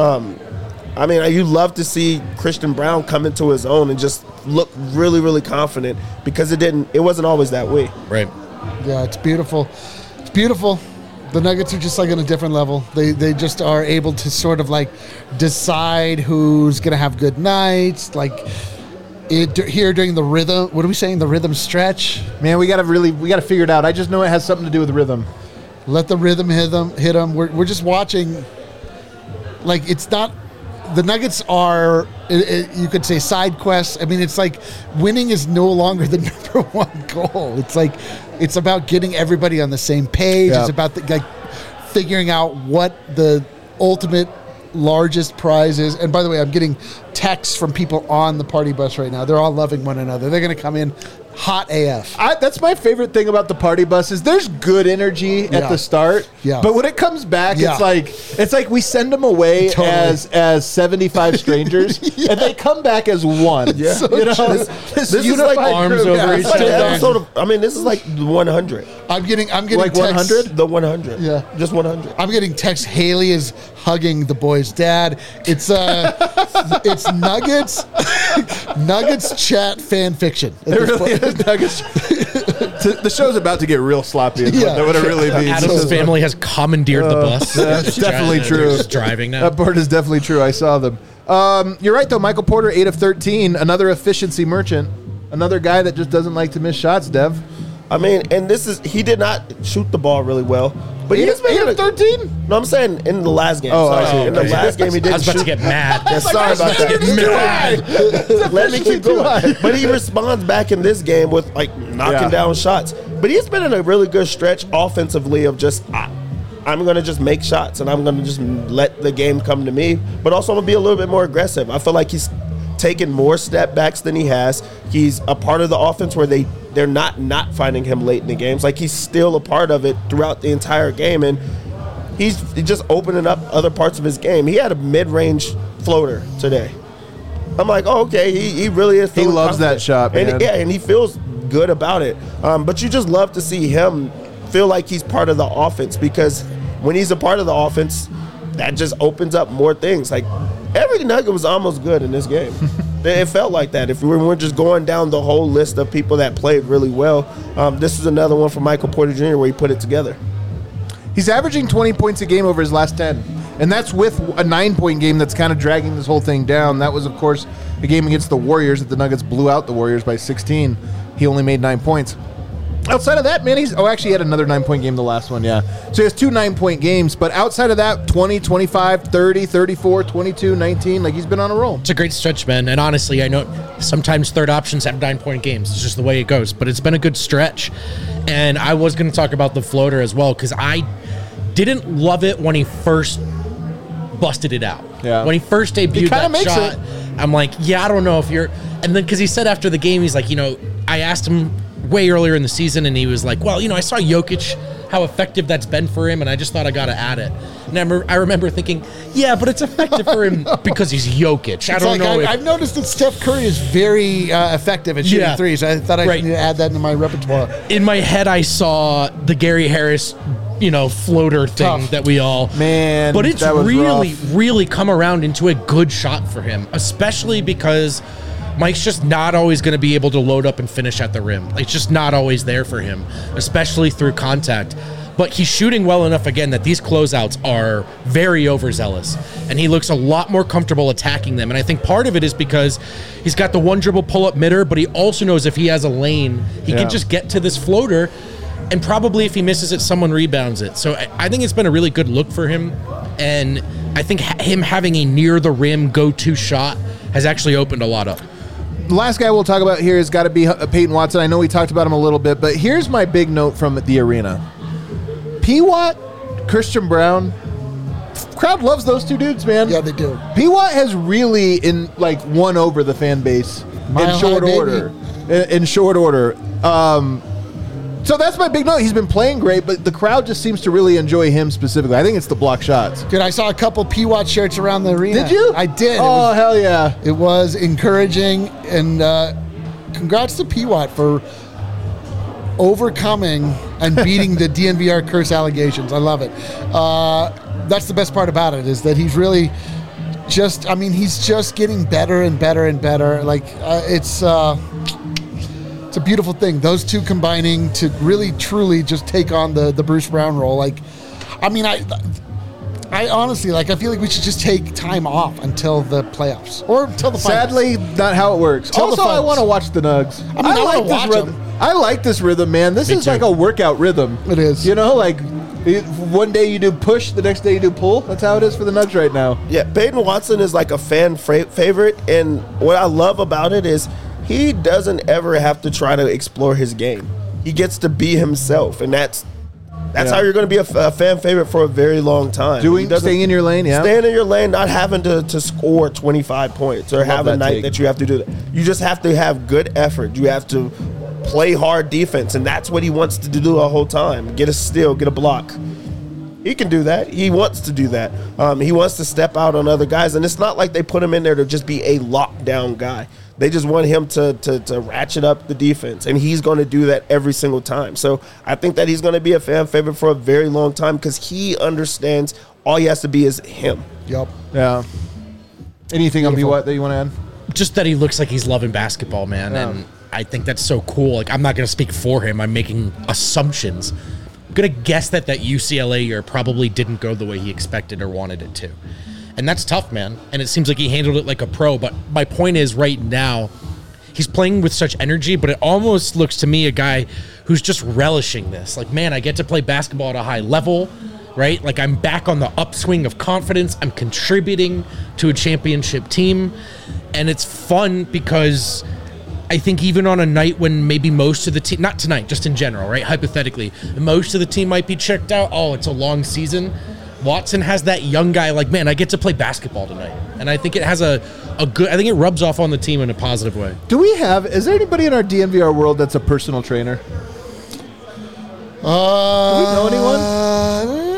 I mean, you love to see Christian Brown come into his own and just look really, really confident because it wasn't always that way. Right. Yeah, it's beautiful. It's beautiful. The Nuggets are just like on a different level. They just are able to sort of like decide who's going to have good nights. Like here during the rhythm, what are we saying? The rhythm stretch. Man, we got to figure it out. I just know it has something to do with rhythm. Let the rhythm hit them. We're just watching. Like, it's not. The Nuggets are, you could say, side quests. I mean, it's like winning is no longer the number one goal. It's like, it's about getting everybody on the same page. Yeah. It's about figuring out what the ultimate largest prize is. And by the way, I'm getting texts from people on the party bus right now. They're all loving one another. They're going to come in hot AF. That's my favorite thing about the party buses. There's good energy at the start, but when it comes back, it's like we send them away as 75 stuff and they come back as one. Yeah. So, you know, this is like arms over each other. This is like 100. I'm getting like 100. The 100. Yeah, just 100. I'm getting text. Haley is hugging the boy's dad. It's it's Nuggets chat fan fiction. It really is Nuggets. The show's about to get real sloppy. That would really be. Adam's family has commandeered the bus. That's definitely true. Just driving now. That part is definitely true. I saw them. You're right though. Michael Porter, 8 of 13, another efficiency merchant, another guy that just doesn't like to miss shots. Dev. I mean, and he did not shoot the ball really well. But he's been 8 of 13? No, I'm saying in the last game. Oh, sorry. I see. In the last game, he didn't I was about shoot. to get mad. Yeah, sorry about that. Let me keep going. But he responds back in this game with like knocking down shots. But he's been in a really good stretch offensively of just I'm going to just make shots and I'm going to just let the game come to me. But also I'm going to be a little bit more aggressive. I feel like he's taken more step backs than he has. He's a part of the offense where they're not finding him late in the games. Like he's still a part of it throughout the entire game, and he's just opening up other parts of his game. He had a mid-range floater today. I'm like, oh, okay, he really is. He loves that shot, man. And he feels good about it. But you just love to see him feel like he's part of the offense, because when he's a part of the offense, that just opens up more things. Like every Nugget was almost good in this game. It felt like that. If we were just going down the whole list of people that played really well, this is another one for Michael Porter Jr. where he put it together. He's averaging 20 points a game over his last 10. And that's with a 9-point game that's kind of dragging this whole thing down. That was, of course, a game against the Warriors that the Nuggets blew out the Warriors by 16. He only made 9 points. Outside of that, man, actually he had another 9-point game the last one, yeah. So he has 2 9-point games, but outside of that, 20, 25, 30, 34, 22, 19, like he's been on a roll. It's a great stretch, man. And honestly, I know sometimes third options have 9-point games. It's just the way it goes, but it's been a good stretch. And I was going to talk about the floater as well, because I didn't love it when he first busted it out. Yeah. When he first debuted that shot, I'm like, I don't know if you're... And then because he said after the game, he's like, I asked him way earlier in the season, and he was like, well, I saw Jokic, how effective that's been for him, and I just thought I got to add it. And I remember thinking, but it's effective for him because he's Jokic. I don't know. I've noticed that Steph Curry is very effective at shooting threes. I thought I needed to add that into my repertoire. In my head, I saw the Gary Harris, floater thing that we all... Man, but it's really come around into a good shot for him, especially because Mike's just not always going to be able to load up and finish at the rim. It's just not always there for him, especially through contact. But he's shooting well enough, again, that these closeouts are very overzealous. And he looks a lot more comfortable attacking them. And I think part of it is because he's got the one dribble pull-up midder, but he also knows if he has a lane, he can just get to this floater. And probably if he misses it, someone rebounds it. So I think it's been a really good look for him. And I think him having a near-the-rim go-to shot has actually opened a lot up. The last guy we'll talk about here has got to be Peyton Watson. I know we talked about him a little bit, but here's my big note from the arena. P-Watt, Christian Brown, crowd loves those two dudes, man. Yeah, they do. P-Watt has really won over the fan base in short order. In short order. So that's my big note. He's been playing great, but the crowd just seems to really enjoy him specifically. I think it's the block shots. Dude, I saw a couple P-Watt shirts around the arena. Did you? I did. Oh, hell yeah. It was encouraging, and congrats to P-Watt for overcoming and beating the DNVR curse allegations. I love it. That's the best part about it, is that he's really he's just getting better and better and better. It's a beautiful thing. Those two combining to really, truly just take on the Bruce Brown role. I honestly, I feel like we should just take time off until the playoffs or until the finals. Sadly, not how it works. Also, I want to watch the Nugs. I like this rhythm. I like this rhythm, man. This is like a workout rhythm. It is. One day you do push, the next day you do pull. That's how it is for the Nugs right now. Yeah, Peyton Watson is like a fan favorite, and what I love about it is he doesn't ever have to try to explore his game. He gets to be himself, and that's That's Yeah. how you're going to be a fan favorite for a very long time. Staying in your lane, yeah. Staying in your lane, not having to score 25 points or have a that night take. that you have to do that. You just have to have good effort. You have to play hard defense, and that's what he wants to do the whole time. Get a steal, get a block. He can do that. He wants to do that. He wants to step out on other guys, and it's not like they put him in there to just be a lockdown guy. They just want him to ratchet up the defense, and he's going to do that every single time. So I think that he's going to be a fan favorite for a very long time because he understands all he has to be is him. Yep. Yeah. Anything on Beautiful. what that you want to add? Just that he looks like he's loving basketball, man. Yeah. And I think that's so cool. Like, I'm not going to speak for him. I'm making assumptions. I'm going to guess that UCLA year probably didn't go the way he expected or wanted it to. And that's tough, man. And it seems like he handled it like a pro. But my point is, right now, he's playing with such energy, but it almost looks to me a guy who's just relishing this. Like, man, I get to play basketball at a high level, right? Like, I'm back on the upswing of confidence. I'm contributing to a championship team. And it's fun because I think even on a night when maybe most of the team, not tonight, just in general, right? Hypothetically, most of the team might be checked out. Oh, it's a long season. Watson has that young guy like, man, I get to play basketball tonight. And I think it has a good, I think it rubs off on the team in a positive way. Is there anybody in our DNVR world that's a personal trainer? Do we know anyone?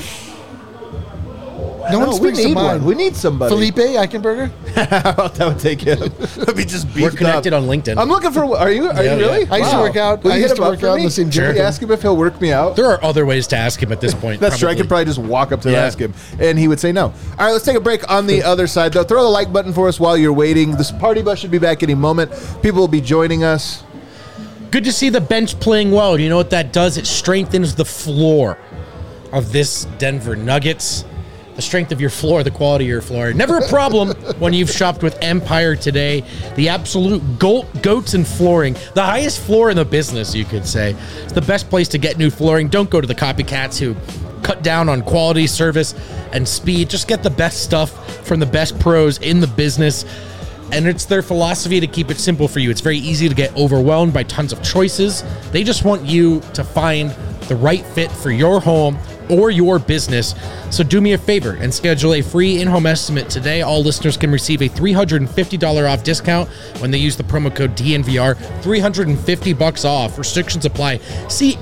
No one we springs to need mind. one. We need somebody. Felipe Eichenberger? That would take him. Let me just beef We're connected up. on LinkedIn. I'm looking for. Are you really? yeah. I used to work out. Will I you used hit to him up work for out in me? the same gym. Will you ask him if he'll work me out? There are other ways to ask him at this point. That's true. I could probably just walk up to him and Yeah. ask him, and he would say no. All right, let's take a break on the other side, though. Throw the like button for us while you're waiting. This party bus should be back any moment. People will be joining us. Good to see the bench playing well. You know what that does? It strengthens the floor of this Denver Nuggets. The strength of your floor, the quality of your floor. Never a problem when you've shopped with Empire today. The absolute goats in flooring. The highest floor in the business, you could say. It's the best place to get new flooring. Don't go to the copycats who cut down on quality, service, and speed. Just get the best stuff from the best pros in the business. And it's their philosophy to keep it simple for you. It's very easy to get overwhelmed by tons of choices. They just want you to find the right fit for your home or your business. So do me a favor and schedule a free in-home estimate today. All listeners can receive a $350 off discount when they use the promo code DNVR. $350 off. Restrictions apply. See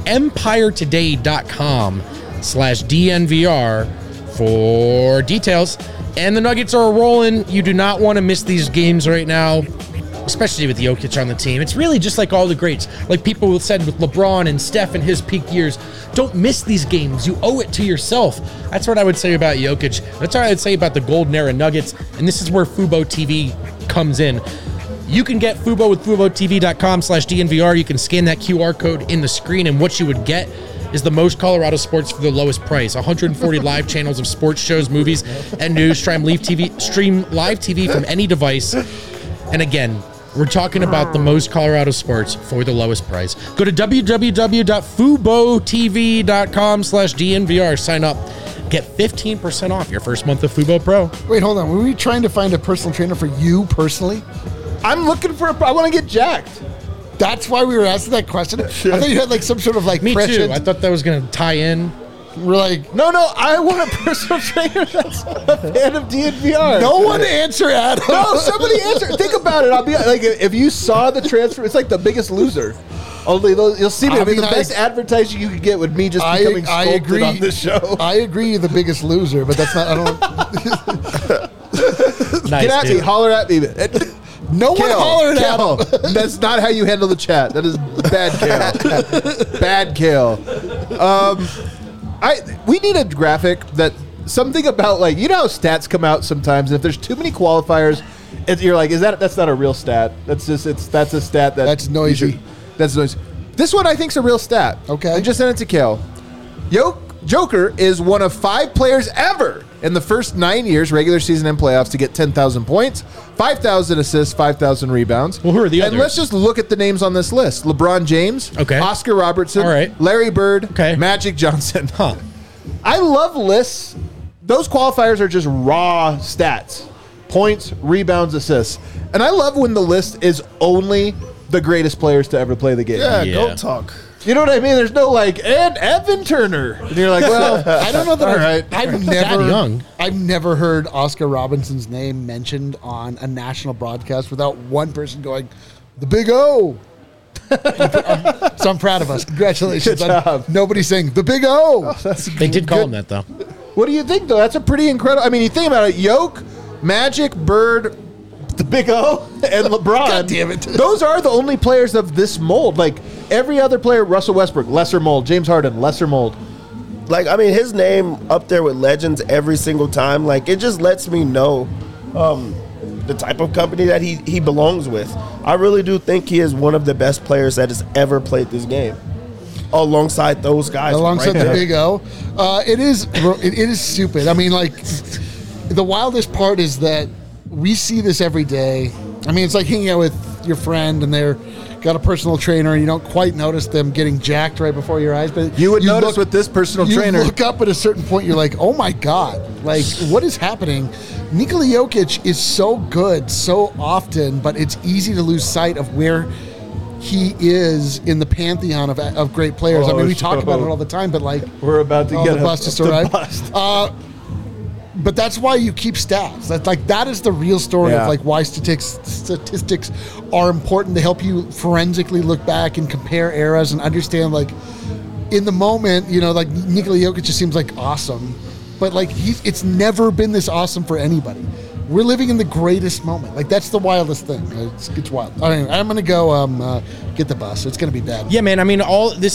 empiretoday.com/DNVR for details. And the Nuggets are rolling. You do not want to miss these games right now, especially with Jokic on the team. It's really just like all the greats. Like people said with LeBron and Steph in his peak years, don't miss these games. You owe it to yourself. That's what I would say about Jokic. That's what I would say about the Golden Era Nuggets. And this is where Fubo TV comes in. You can get Fubo with FuboTV.com/DNVR. You can scan that QR code in the screen, and what you would get is the most Colorado sports for the lowest price. 140 live channels of sports shows, movies, and news. Stream live TV from any device. And again, we're talking about the most Colorado sports for the lowest price. Go to www.FuboTV.com/DNVR. Sign up. Get 15% off your first month of Fubo Pro. Wait, hold on. Were we trying to find a personal trainer for you personally? I'm looking for I want to get jacked. That's why we were asking that question? I thought you had like some sort of like Me prescient. too. I thought that was going to tie in. We're like, No, I want a personal trainer that's a fan of DNVR. no one answer, Adam. No, somebody answer. Think about it. I'll be like, if you saw the transfer, it's like The Biggest Loser. Only you'll see me. I I mean, the mean, best advertising you could get would me just becoming I sculpted agree on this show. I agree, you're the biggest loser, but that's not. I don't. Nice, Get at me, dude. holler at me. No one hollered at him. That's not how you handle the chat. That is bad, Kale. Bad, Kale. We need a graphic that something about like, you know how stats come out sometimes. If there's too many qualifiers, you're like, that's not a real stat. That's a stat That's noisy. That's noisy. This one I think is a real stat. Okay. I just sent it to Kale. Joker is one of 5 players ever in the first 9 years, regular season and playoffs, to get 10,000 points, 5,000 assists, 5,000 rebounds. Well, who are the And others? let's just look at the names on this list. LeBron James, Okay. Oscar Robertson, All right. Larry Bird, Okay. Magic Johnson. Huh. I love lists. Those qualifiers are just raw stats. Points, rebounds, assists. And I love when the list is only the greatest players to ever play the game. Yeah, Yeah. GOAT talk. You know what I mean? There's no like, and Evan Turner. And you're like, well, I don't know that all right. I've never heard Oscar Robinson's name mentioned on a national broadcast without one person going, "The Big O." So I'm proud of us. Congratulations. Good job. Nobody's saying the Big O. They did call him that, though. What do you think, though? That's a pretty incredible. I mean, you think about it: Yoke, Magic, Bird, the Big O, and LeBron. God damn it. Those are the only players of this mold. Like every other player, Russell Westbrook, lesser mold. James Harden, lesser mold. Like, I mean, his name up there with legends every single time. Like, it just lets me know the type of company that he belongs with. I really do think he is one of the best players that has ever played this game. Alongside those guys. Alongside right the there. Big O. It is stupid. I mean, like, the wildest part is that we see this every day. I mean, it's like hanging out with your friend and they're got a personal trainer and you don't quite notice them getting jacked right before your eyes. But You would notice with this personal trainer. You look up at a certain point, you're like, oh my God, like, what is happening? Nikola Jokic is so good so often, but it's easy to lose sight of where he is in the pantheon of great players. I mean, we talk about it all the time, but like, We're about to get the bust just arrived. But that's why you keep stats. That is the real story Yeah. of like why statistics are important. They help you forensically look back and compare eras and understand, like, in the moment, you know, like Nikola Jokic just seems like awesome, but like it's never been this awesome for anybody. We're living in the greatest moment. Like, that's the wildest thing. It's wild. Anyway, I'm gonna go get the bus. It's gonna be bad. Yeah, man. I mean,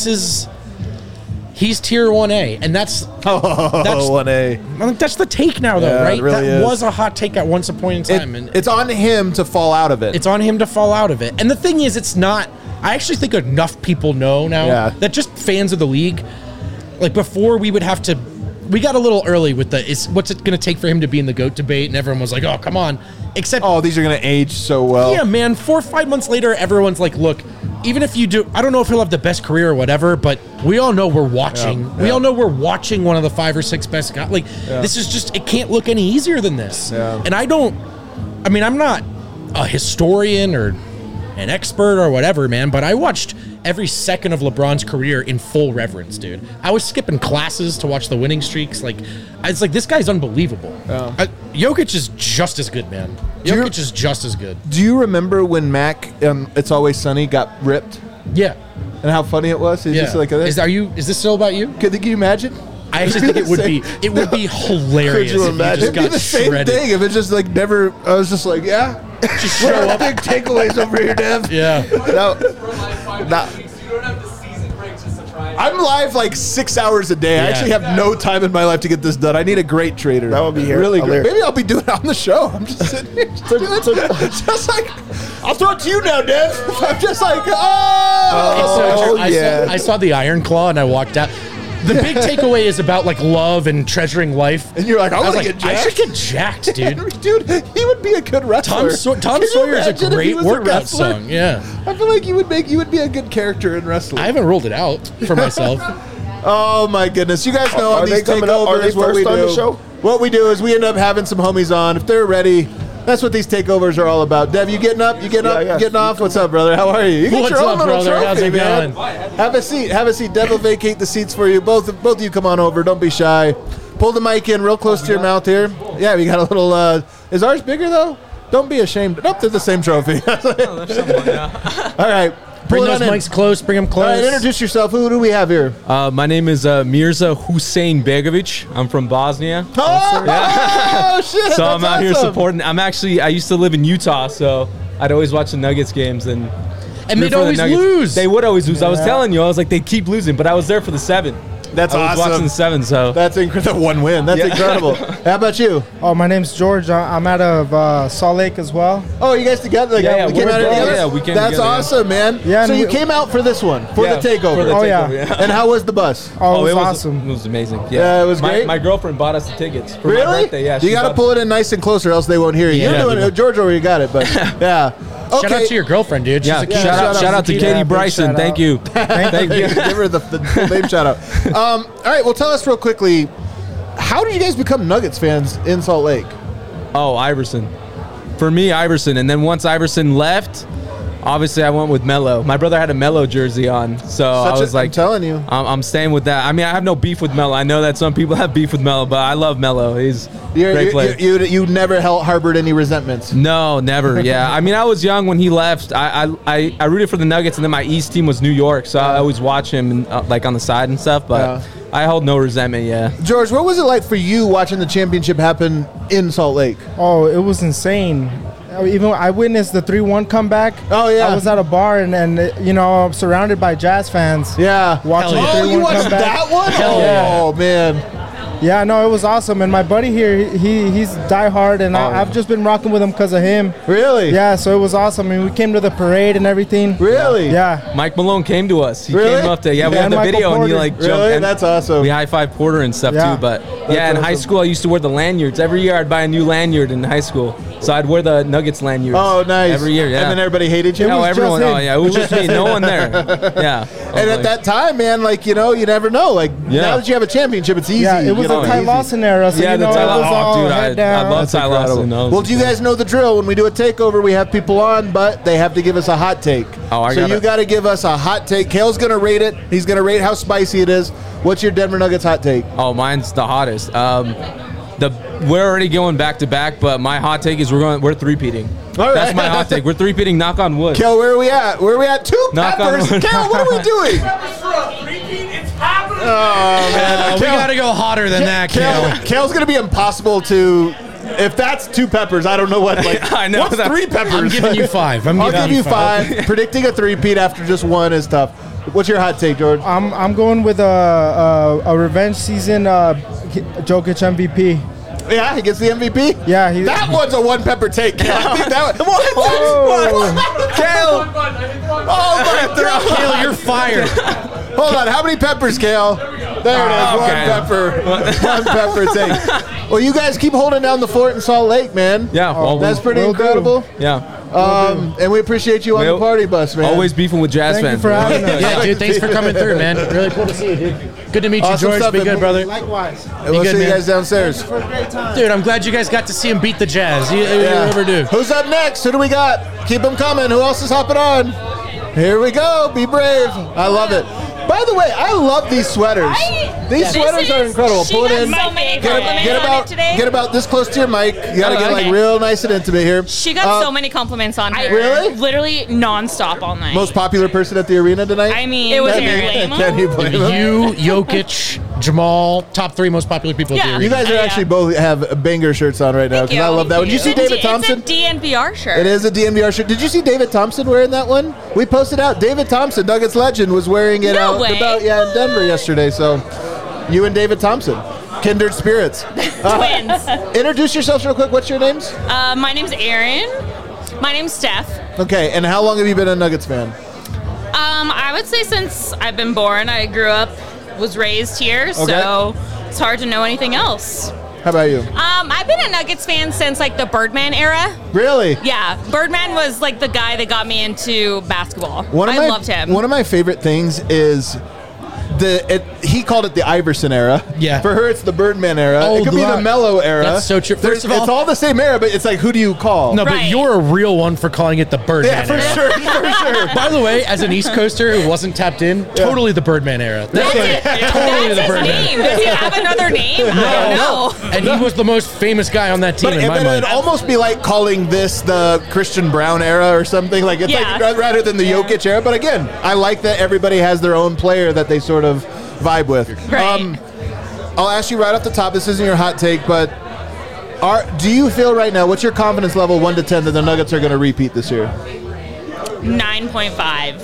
he's tier 1A, and that's 1A. I think that's the take now, though, Yeah, it right? really that is. was a hot take at once upon in time, and It's on him to fall out of it. it's on him to fall out of it. And the thing is, it's not. I actually think enough people know now Yeah. that just fans of the league, like before, we would have to. We got a little early with what's it going to take for him to be in the GOAT debate, and everyone was like, "Oh, come on!" Except, Oh, these are going to age so well. yeah, man, 4 or 5 months later, everyone's like, "Look, even if you do, I don't know if he'll have the best career or whatever, but we all know we're watching. Yeah, We yeah. all know we're watching one of the 5 or 6 best guys. Like, this is just, it can't look any easier than this. Yeah. And I'm not a historian or an expert or whatever, man, but I watched every second of LeBron's career in full reverence, dude. I was skipping classes to watch the winning streaks. Like, I was like, this guy's unbelievable. Jokic is just as good, man. Jokic is just as good. Do you remember when Mac, It's Always Sunny, got ripped? Yeah. And how funny it was? He's just like this. Is this still about you? Could you imagine? I actually think it would be hilarious. Could you if imagine? just It'd be got the same shredded. thing if it just like never. I was just like, yeah. Just What show are up. big takeaways over here, Dev? Yeah. No, Nah. You don't have the season break just to try. I'm live like 6 hours a day. I Yeah. actually have no time in my life to get this done. I need a great trader. That would be really great. hilarious. Maybe I'll be doing it on the show. I'm just sitting here, just like, I'll throw it to you now, Dev. I'm just like, oh. I saw the Iron Claw and I walked out. The big takeaway is about like love and treasuring life. And you're like, I was want to like, get I jacked. should get jacked, dude. Dude, he would be a good wrestler. Tom Can you Sawyer is a imagine if he great was workout wrestler? song. Yeah, I feel like you would be a good character in wrestling. I haven't ruled it out for myself. Oh my goodness! You guys know Are on they these coming up? Are they takeovers what first we on do. the show? What we do is we end up having some homies on if they're ready. That's what these takeovers are all about. Dev, you getting up? You getting up? Yeah. Getting off? What's up, brother? How are you? You get What's your own up, little brother? trophy, How's it man. going? Have a seat. Have a seat. Dev will vacate the seats for you. Both of you come on over. Don't be shy. Pull the mic in real close to your mouth here. Yeah, we got a little. Is ours bigger though? Don't be ashamed. Nope, they're the same trophy. All right. Bring Pull it those on in. mics close. Bring them All close. right, introduce yourself. Who do we have here? My name is Mirza Hussein Begovic. I'm from Bosnia. Oh, shit. So I'm that's out here awesome. supporting. I used to live in Utah, so I'd always watch the Nuggets games. And And root they'd for the always Nuggets. lose. They would always lose. I was telling you, I was like, they'd keep losing, but I was there for the 7. That's I was watching awesome. the 7, so. That's incredible. One win. That's Yeah. incredible. How about you? Oh, my name's George. I'm out of Salt Lake as well. Oh, you guys together? Like, Yeah, we came we're out brothers. together? Yeah, we came That's together, yeah. awesome, man. Yeah, so and you we- came out for this one, for Yeah, the takeover. for the Oh, takeover, yeah. And how was the bus? Oh, it was was awesome. It was amazing. Yeah, it was great? My girlfriend bought us the tickets for my Really? birthday. Yeah, you got to pull it in nice and close or else they won't hear you. Yeah. You're doing it. George already got it, but yeah. Shout out to your girlfriend, dude. She's Yeah, a cute shout out to Yeah, Katie big Bryson. shout Thank out. you. Thank you. Give her the full name shout out. All right, well, tell us real quickly, how did you guys become Nuggets fans in Salt Lake? Oh, Iverson. For me, Iverson. And then once Iverson left, obviously I went with Melo. My brother had a Melo jersey on, so I was like, I'm telling you. I'm staying with that. I mean, I have no beef with Melo. I know that some people have beef with Melo, but I love Melo. He's a great player. You never harbored any resentments. No, never. Yeah, I mean, I was young when he left. I rooted for the Nuggets, and then my East team was New York, so I always watch him like on the side and stuff. But I hold no resentment. Yeah. George, what was it like for you watching the championship happen in Salt Lake? Oh, it was insane. Even I witnessed the 3-1 comeback. Oh, yeah. I was at a bar and you know, surrounded by Jazz fans. Yeah. Watching the 3-1 you watched comeback. that one? Yeah. Oh, man. Yeah, no, it was awesome. And my buddy here, he's diehard, and I've just been rocking with him because of him. Really? Yeah, so it was awesome. I mean, we came to the parade and everything. Really? Yeah. Mike Malone came to us. He Really? came up there. Yeah, we Yeah, had the and video, Michael and he Porter. like jumped. Really? And That's awesome. we high-fived Porter and stuff Yeah. too. But yeah, in high awesome. school I used to wear the lanyards. Every year I'd buy a new lanyard in high school, so I'd wear the Nuggets lanyards. Oh, nice. Every year, yeah. And then everybody hated you? No, was everyone. just Oh, him. yeah, it was just me. No one there. Yeah. And at that time, man, like, you know, you never know. Like, Yeah. now that you have a championship, it's easy. Yeah, it was you know, the Ty easy. Lawson era, so Yeah, you the know, Ty it was Lawson. all Oh, dude, head I down. love Ty Lawson. Well, do you guys know the drill? When we do a takeover, we have people on, but they have to give us a hot take. Oh, so you got to give us a hot take. Kale's going to rate it. He's going to rate how spicy it is. What's your Denver Nuggets hot take? Oh, mine's the hottest. We're already going back to back, but my hot take is we're three-peating. All right. That's my hot take. We're three-peating. Knock on wood. Kale, where are we at? Where are we at? Two Knock on peppers. wood. Kale, what are we doing? It's happening. Oh, man. We got to go hotter than that, Kale. Kale's going to be impossible to... If that's two peppers, I don't know what. Like, I know, what's that's- three peppers? I'm giving you 5. I'll give you 5. Predicting a three-peat after just one is tough. What's your hot take, George? I'm going with a revenge season Jokic MVP. Yeah, he gets the MVP? Yeah, That one's a one pepper take. Kale. I think that one. Kale. Oh, my God. Kale, you're fired. Hold on. How many peppers, Kale? There it is. Okay. One pepper take. Well, you guys keep holding down the fort in Salt Lake, man. Yeah, well, That's pretty will do. incredible. yeah. And we appreciate you on the party bus, man. Always beefing with Jazz Thank you fans. for having us. Yeah, dude, thanks for coming through, man. Really cool to see you, dude. Good to meet you, Awesome George. stuff, Be man. good, brother. Likewise. And we'll good, see you man. guys downstairs. For a great time. Dude, I'm glad you guys got to see him beat the Jazz. You ever do. Who's up next? Who do we got? Keep them coming. Who else is hopping on? Here we go. Be brave. I love it. By the way, I love these sweaters. These sweaters are incredible. Pull it in. So many Get compliments on it today. about this close to your mic. You got to get like real nice and intimate here. She got so many compliments on her. Really? Literally nonstop all night. Most popular person at the arena tonight? I mean, it was Aaron. Can you blame him? You, Jokic, Jamal, top 3 most popular people at the Yeah. arena. You guys are actually both have banger shirts on right now because I love that one. Did you see David Thompson? It's a DNVR shirt. It is a DNVR shirt. Did you see David Thompson wearing that one? We posted out. David Thompson, Nuggets legend, was wearing it No out way. in Denver yesterday. So, you and David Thompson, kindred spirits. Twins. Introduce yourselves real quick. What's your names? My name's Aaron. My name's Steph. Okay, and how long have you been a Nuggets fan? I would say since I've been born. I grew up, was raised here, so it's hard to know anything else. How about you? I've been a Nuggets fan since like the Birdman era. Really? Yeah, Birdman was like the guy that got me into basketball. I loved him. One of my favorite things is he called it the Iverson era. Yeah. For her, it's the Birdman era. Oh, it could be the right. Mello era. That's so true. First of all- it's all the same era, but it's like, who do you call? No, but Right. you're a real one for calling it the Birdman Yeah, for era. sure, for sure. By the way, as an East Coaster who wasn't tapped in, totally the Birdman era. That's Totally That's the his Birdman. name. Does he have another name? I don't know. And he was the most famous guy on that team But in my it'd mind. almost be like calling this the Christian Brown era or something. Like it's Yeah. like rather than the Jokic era. But again, I like that everybody has their own player that they sort of vibe with. Right. I'll ask you right off the top. This isn't your hot take, but do you feel right now? What's your confidence level, 1 to 10, that the Nuggets are going to repeat this year? 9.5.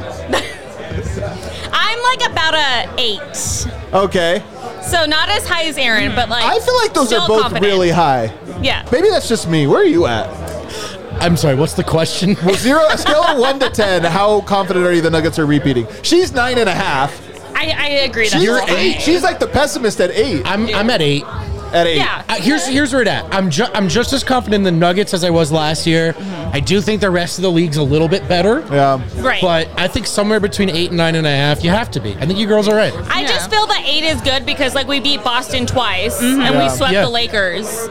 I'm like about a 8. Okay, So not as high as Aaron, but like I feel like those still are both confident. really high. Yeah. Maybe that's just me. Where are you at? I'm sorry, what's the question? Well, a scale of 1 to 10. How confident are you the Nuggets are repeating? She's 9.5. I agree. That's You're a little 8. high. She's like the pessimist at 8. I'm at 8. At 8. Yeah. Here's where it at. I'm just as confident in the Nuggets as I was last year. I do think the rest of the league's a little bit better. Yeah. Right. But I think somewhere between 8 and 9.5, you have to be. I think you girls are right. I just feel that 8 is good because like we beat Boston twice and we swept Yeah. the Lakers.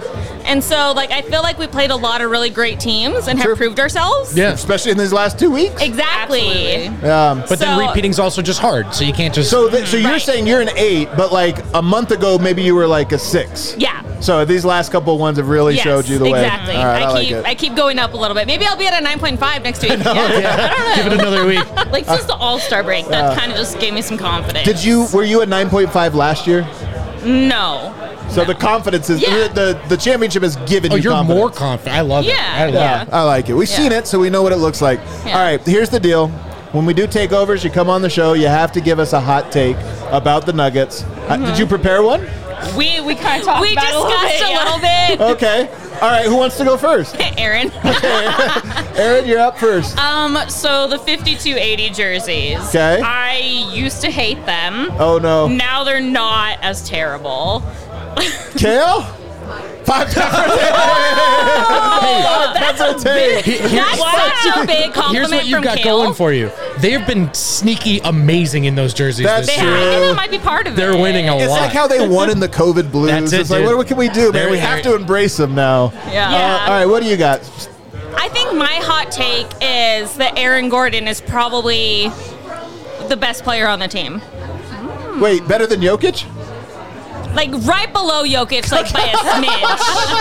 And so, like, I feel like we played a lot of really great teams and have proved ourselves. Yeah, especially in these last 2 weeks. Exactly. But then repeating's also just hard, so you can't just. So you're saying you're an 8, but like a month ago, maybe you were like a 6. Yeah. So these last couple of ones have really showed you the way. Exactly. All right, I keep going up a little bit. Maybe I'll be at a 9.5 next week. I don't know. Give it another week. Like since the All-Star break, that kind of just gave me some confidence. Were you at 9.5 last year? No. So the confidence is the championship has given you you're confidence. more confident. I love it. I like it. We've seen it, so we know what it looks like. Yeah. All right, here's the deal. When we do takeovers, you come on the show, you have to give us a hot take about the Nuggets. Did you prepare one? We kind of talked about it a little bit. Okay. All right, who wants to go first? Aaron. Aaron, you're up first. So the 5280 jerseys. Okay. I used to hate them. Oh, no. Now they're not as terrible. Kale? 5 peppers. That's a big compliment. Here's what you've from got Kale. going for you. They've been sneaky amazing in those jerseys That's this I year. think that might be part of They're it. winning a It's lot. like how they won in the COVID blues. That's it, It's like, dude. what can we do, man? We have to embrace them now. Yeah. All right, what do you got? I think my hot take is that Aaron Gordon is probably the best player on the team. Wait, better than Jokic? Like right below Jokic, like by a smidge.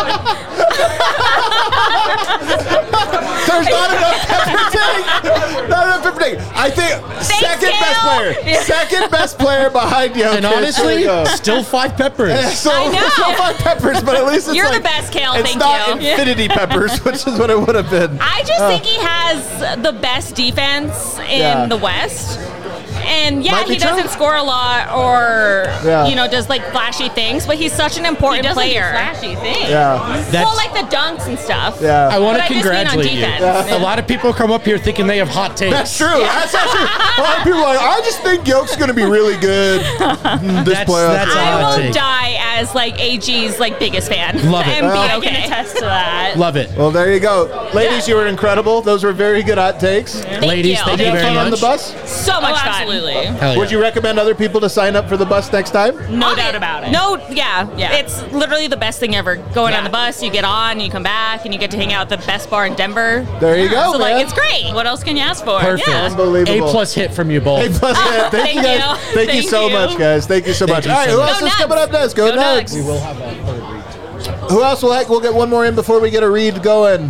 There's not enough pepper take. Not enough pepper take. I think second best player. Second best player behind Jokic. And honestly, There you go. still 5 peppers. So, I know. Still 5 peppers, but at least it's You're like, the best, Kale. It's Thank not you. infinity peppers, which is what it would have been. I just think he has the best defense in Yeah. the West. And Might be he doesn't true. score a lot or Yeah. does like flashy things, but he's such an important player. flashy things. Yeah. Well, like the dunks and stuff. Yeah. I want to But I just mean on congratulate you. defense. A lot of people come up here thinking they have hot takes. That's true. That's actually a lot of people are like, I just think Yoke's going to be really good this playoff. that's a I hot will take. die as like AG's like biggest fan. Love it. And be I okay. can attest to that. Love it. Well, there you go. Ladies, you were incredible. Those were very good hot takes. Ladies, you. thank Did you you have very fun on much. the bus? So much fun. Absolutely. Hell yeah. Would you recommend other people to sign up for the bus next time? No doubt about it. No, yeah. Yeah. It's literally the best thing ever. Going on the bus, you get on, you come back, and you get to hang out at the best bar in Denver. There you go, So, man. like, it's great. What else can you ask for? Perfect. Yeah. Unbelievable. A+ hit from you both. A+ hit. Thank you guys. you. Thank you Thank so you. much, guys. Thank you so much. you All right, so who much. else Go is Nugs. coming up next? Go Go Nugs. Nugs. We will have a third read. Who else we'll get one more in before we get a read going.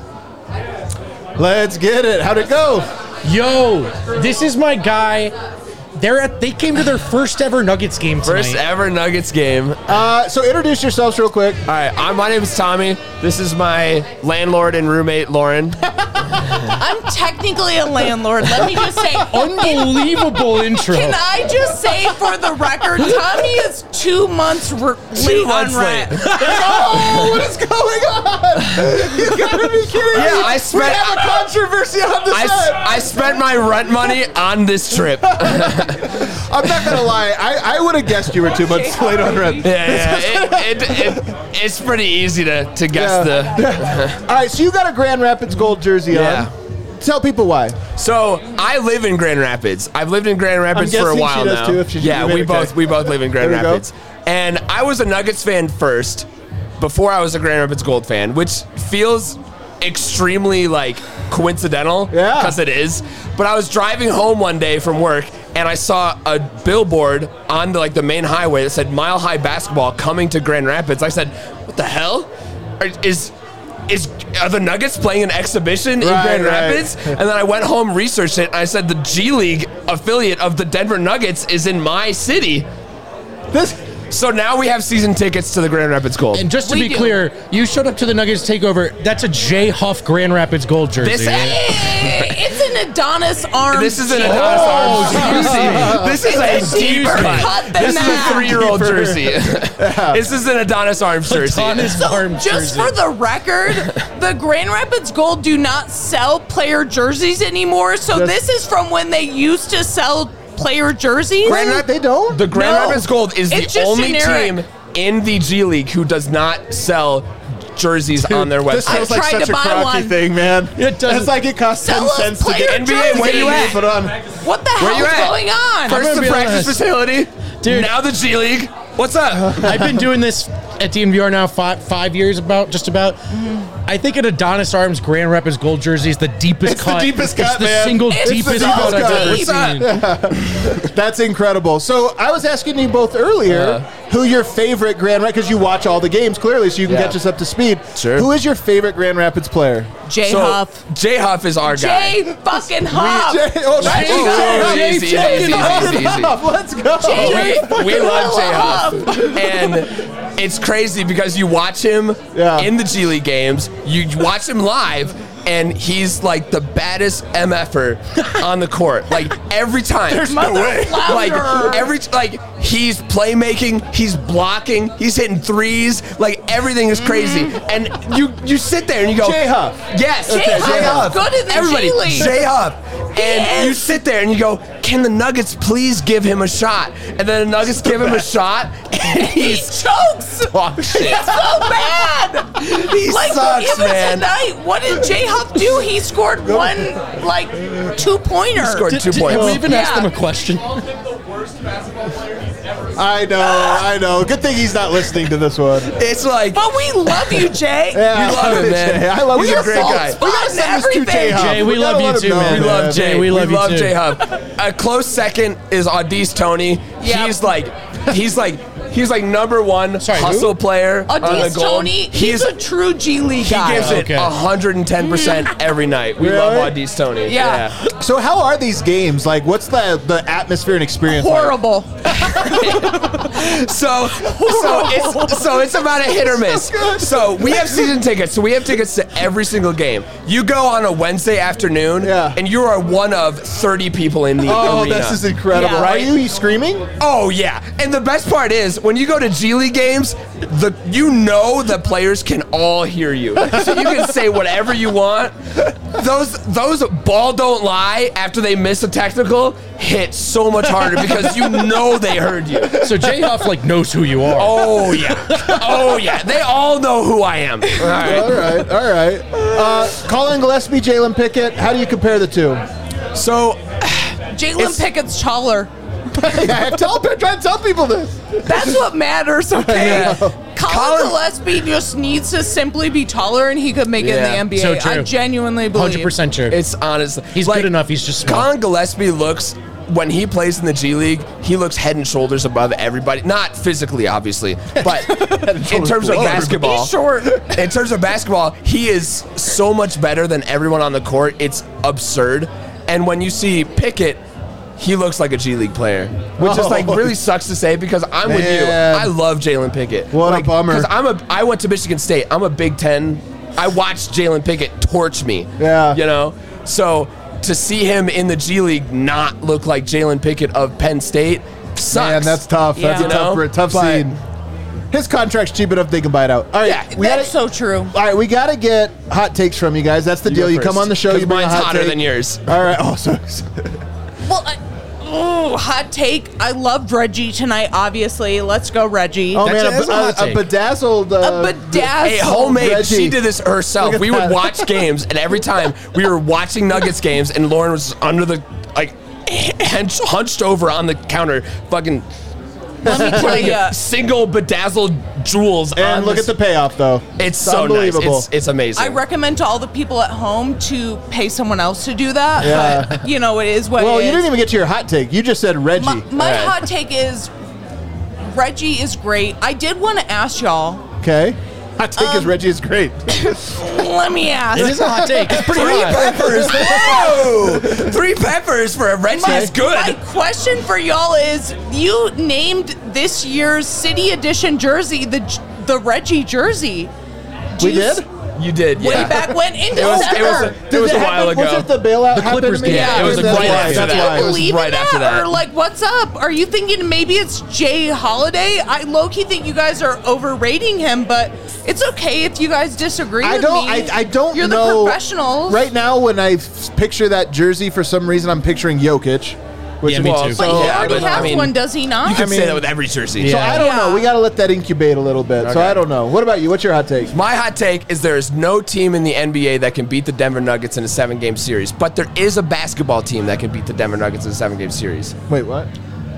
Let's get it. How'd it go? Yo, this is my guy. They came to their first ever Nuggets game tonight. First ever Nuggets game. So introduce yourselves real quick. All right, my name is Tommy. This is my landlord and roommate, Lauren. I'm technically a landlord. Let me just say, Unbelievable intro. Can I just say for the record, Tommy is 2 months late on rent. Oh, what is going on? You gotta be kidding Yeah, me. I spent- We have a controversy on the set. I spent my rent money on this trip. I'm not gonna lie. I would have guessed you were 2 months late on rent. Yeah. It's pretty easy to guess All right, so you got a Grand Rapids gold jersey Yeah. on. Tell people why. So I live in Grand Rapids. I've lived in Grand Rapids for a guessing while she does now. too, if she's Yeah, roommate. we both live in Grand There we go. Rapids. And I was a Nuggets fan first, before I was a Grand Rapids Gold fan, which feels extremely like coincidental. Yeah. Because it is. But I was driving home one day from work and I saw a billboard on the main highway that said Mile High Basketball coming to Grand Rapids. I said, what the hell? Are the Nuggets playing an exhibition in Grand Rapids? And then I went home, researched it, and I said the G League affiliate of the Denver Nuggets is in my city. So now we have season tickets to the Grand Rapids Gold. And just to be clear, you showed up to the Nuggets takeover. That's a J Huff Grand Rapids gold jersey. It's an Adonis arm. This is an Adonis arm jersey. This is a deeper cut. This is a 3-year-old jersey. This is an Adonis Arms jersey. Just for the record, the Grand Rapids Gold do not sell player jerseys anymore. So this is from when they used to sell player jerseys. They don't? The Grand Rapids Gold is It's the just only generic. team in the G League who does not sell jerseys on their website. This feels like tried such to a buy crocky one. thing, man. It doesn't. It's like it costs Sell 10 us cents to player get NBA, where you at? put on. What the Where hell you is at? going on? First gonna the be practice honest. facility, Dude. now the G League. What's up? I've been doing this at DNVR now 5 years just about. I think an Adonis Arms Grand Rapids gold jersey is the deepest It's cut. the deepest cut, It's the man. single It's the deepest deepest cut I've cut. ever seen. That's incredible. So I was asking you both earlier who your favorite Grand Rapids, because you watch all the games clearly, so you can catch us up to speed. Sure. Who is your favorite Grand Rapids player? Jay So, Huff. Jay Huff is our guy. Jay fucking Huff. Easy, easy, easy. Let's go. We love Jay Huff. And it's crazy because you watch him in the G League games, you watch him live, and he's like the baddest MFer on the court. Like every time. There's no way. Like he's playmaking, he's blocking, he's hitting threes, like everything is crazy. And you sit there and you go, Jay Huff. Yes, Jay Huff is good in the Everybody, G League. Jay Huff. And you sit there and you go, can the Nuggets please give him a shot? And then the Nuggets give him a shot, and He chokes. dog shit. It's so bad. He sucks, even man. tonight, what did Jay Huff do? He scored one, 2-pointer. He scored 2 Have points. we even asked him a question? I know. Good thing he's not listening to this one. It's like, But we love you, Jay. Yeah, we love him, man. Jay. I love He's you. a great guy. We gotta send this to Jay Huff. Jay, we gotta love you let him too, know, man. We love Jay. We love you too. Jay Huff. A close second is Audis Tony. Yep. He's like number one hustle player on the Audis goal. Tony, he's a true G League He guy. gives it 110% every night. We love Audis Tony. Yeah. So how are these games? Like, what's the atmosphere and experience like? Horrible. So it's about a hit or miss. So we have season tickets. So we have tickets to every single game. You go on a Wednesday afternoon, and you are one of 30 people in the arena. This is incredible. Yeah. Are you screaming? Oh yeah, and the best part is when you go to G League games, the players can all hear you, so you can say whatever you want. Those ball don't lie after they miss a technical hit so much harder because you know they heard you. So Jay Huff knows who you are. Oh yeah, they all know who I am. All right. Colin Gillespie, Jalen Pickett. How do you compare the two? So Jalen Pickett's taller. Try to tell people this. That's what matters, okay? Yeah. Colin Gillespie just needs to simply be taller and he could make it in the NBA. So true. I genuinely believe. 100% true. It's honestly He's good enough. He's just small. Colin Gillespie looks, when he plays in the G League, he looks head and shoulders above everybody. Not physically, obviously, but in terms of basketball. He's short. In terms of basketball, he is so much better than everyone on the court. It's absurd. And when you see Pickett, he looks like a G League player, which is really sucks to say because I'm with you. I love Jalen Pickett. What a bummer. Because I went to Michigan State. I'm a Big Ten. I watched Jalen Pickett torch me. Yeah. You know? So to see him in the G League not look like Jalen Pickett of Penn State sucks. Man, that's tough. That's a tough scene. His contract's cheap enough they can buy it out. All right, That's so true. All right, we got to get hot takes from you guys. That's the deal. You come on the show, you bring a mine's hot hotter take. than yours. All right. Oh, sorry. Well, hot take. I loved Reggie tonight, obviously. Let's go, Reggie. Oh, man, a bedazzled. Hey, homemade. Reggie. She did this herself. Look at We that. would watch games, and every time we were watching Nuggets games, and Lauren was under the, hunched over on the counter, fucking Let me tell you. single bedazzled jewels. And look at the payoff, though. It's so nice. unbelievable. It's amazing. I recommend to all the people at home to pay someone else to do that. Yeah. But, it is what Well, it you is. didn't even get to your hot take. You just said Reggie. My hot take is Reggie is great. I did want to ask y'all. Okay. Hot take is Reggie is great. Let me ask. It is a hot take. It's pretty Three hot. peppers. Whoa! 3 peppers for a Reggie is good. My question for y'all is: you named this year's City Edition jersey the Reggie jersey. We did? You did, Way yeah. back when in It was December. a while ago. Was it the bailout? The Clippers game. Yeah, it was That's right why. after That's that. why. It was Believe right in after that. Or what's up? Are you thinking maybe it's Jay Holiday? I low-key think you guys are overrating him, but it's okay if you guys disagree with me. I don't You're know. the professionals. Right now, when I picture that jersey, for some reason, I'm picturing Jokic. Which Yeah, me too. But he already has one, does he not? You can say that with every jersey. So I don't know. We got to let that incubate a little bit. So Okay. I don't know. What about you? What's your hot take? My hot take is there is no team in the NBA that can beat the Denver Nuggets in a 7-game series, but there is a basketball team that can beat the Denver Nuggets in a 7-game series. Wait, what?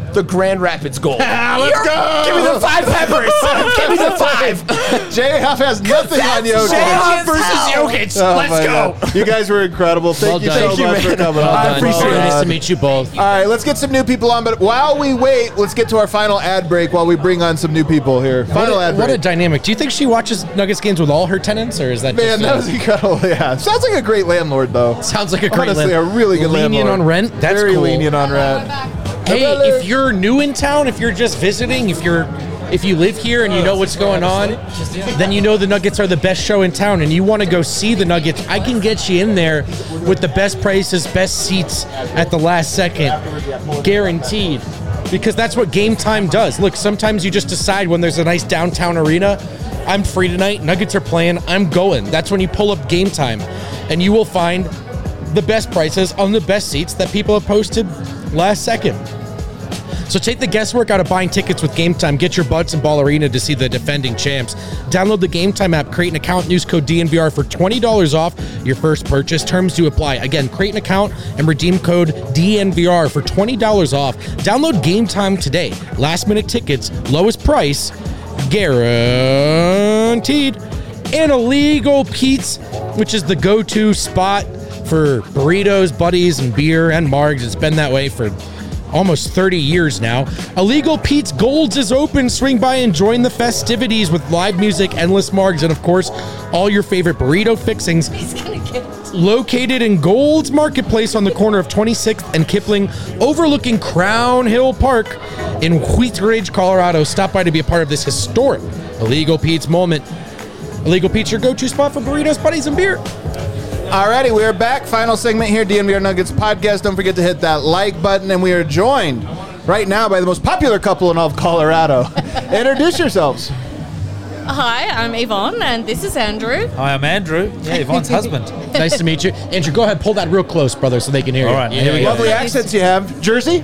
the Grand Rapids Gold. Let's go! Give me the 5 peppers. Give me the 5. J-Huff has nothing on Jokic. J-Huff versus Jokic. Oh, Let's my go. God. You guys were incredible. Thank you so much for coming on. I appreciate it. Nice to meet you both. All right, let's get some new people on. But while we wait, let's get to our final ad break while we bring on some new people here. Final ad break. What a dynamic. Do you think she watches Nuggets games with all her tenants, or is that Man, just that was incredible. Yeah. Sounds like a great landlord, though. Sounds like a great Honestly, a really good lenient landlord. on rent? That's Very cool. lenient on rent. Hey, if you're new in town, if you're just visiting, if you live here and you know what's going on, then you know the Nuggets are the best show in town and you want to go see the Nuggets, I can get you in there with the best prices, best seats at the last second. Guaranteed. Because that's what Game Time does. Look, sometimes you just decide when there's a nice downtown arena, I'm free tonight, Nuggets are playing, I'm going. That's when you pull up Game Time. And you will find the best prices on the best seats that people have posted last second. So take the guesswork out of buying tickets with Game Time. Get your butts in Ball Arena to see the defending champs. Download the Game Time app, create an account, use code DNVR for $20 off your first purchase. Terms do apply. Again, create an account and redeem code DNVR for $20 off. Download Game Time today. Last minute tickets, lowest price, guaranteed. And Illegal Pete's, which is the go-to spot for burritos, buddies, and beer and margs. It's been that way for almost 30 years now. Illegal Pete's Golds is open. Swing by and join the festivities with live music, endless margs, and of course, all your favorite burrito fixings. Located in Gold's Marketplace on the corner of 26th and Kipling, overlooking Crown Hill Park in Wheat Ridge, Colorado. Stop by to be a part of this historic Illegal Pete's moment. Illegal Pete's, your go-to spot for burritos, buddies, and beer. Alrighty, we are back. Final segment here, DNVR Nuggets podcast. Don't forget to hit that like button. And we are joined right now by the most popular couple in all of Colorado. Introduce yourselves. Hi, I'm Yvonne, and this is Andrew. Hi, I'm Andrew. Yeah, Yvonne's husband. Nice to meet you. Andrew, go ahead, pull that real close, brother, so they can hear you. All right, here we go. Lovely accents you have. Jersey?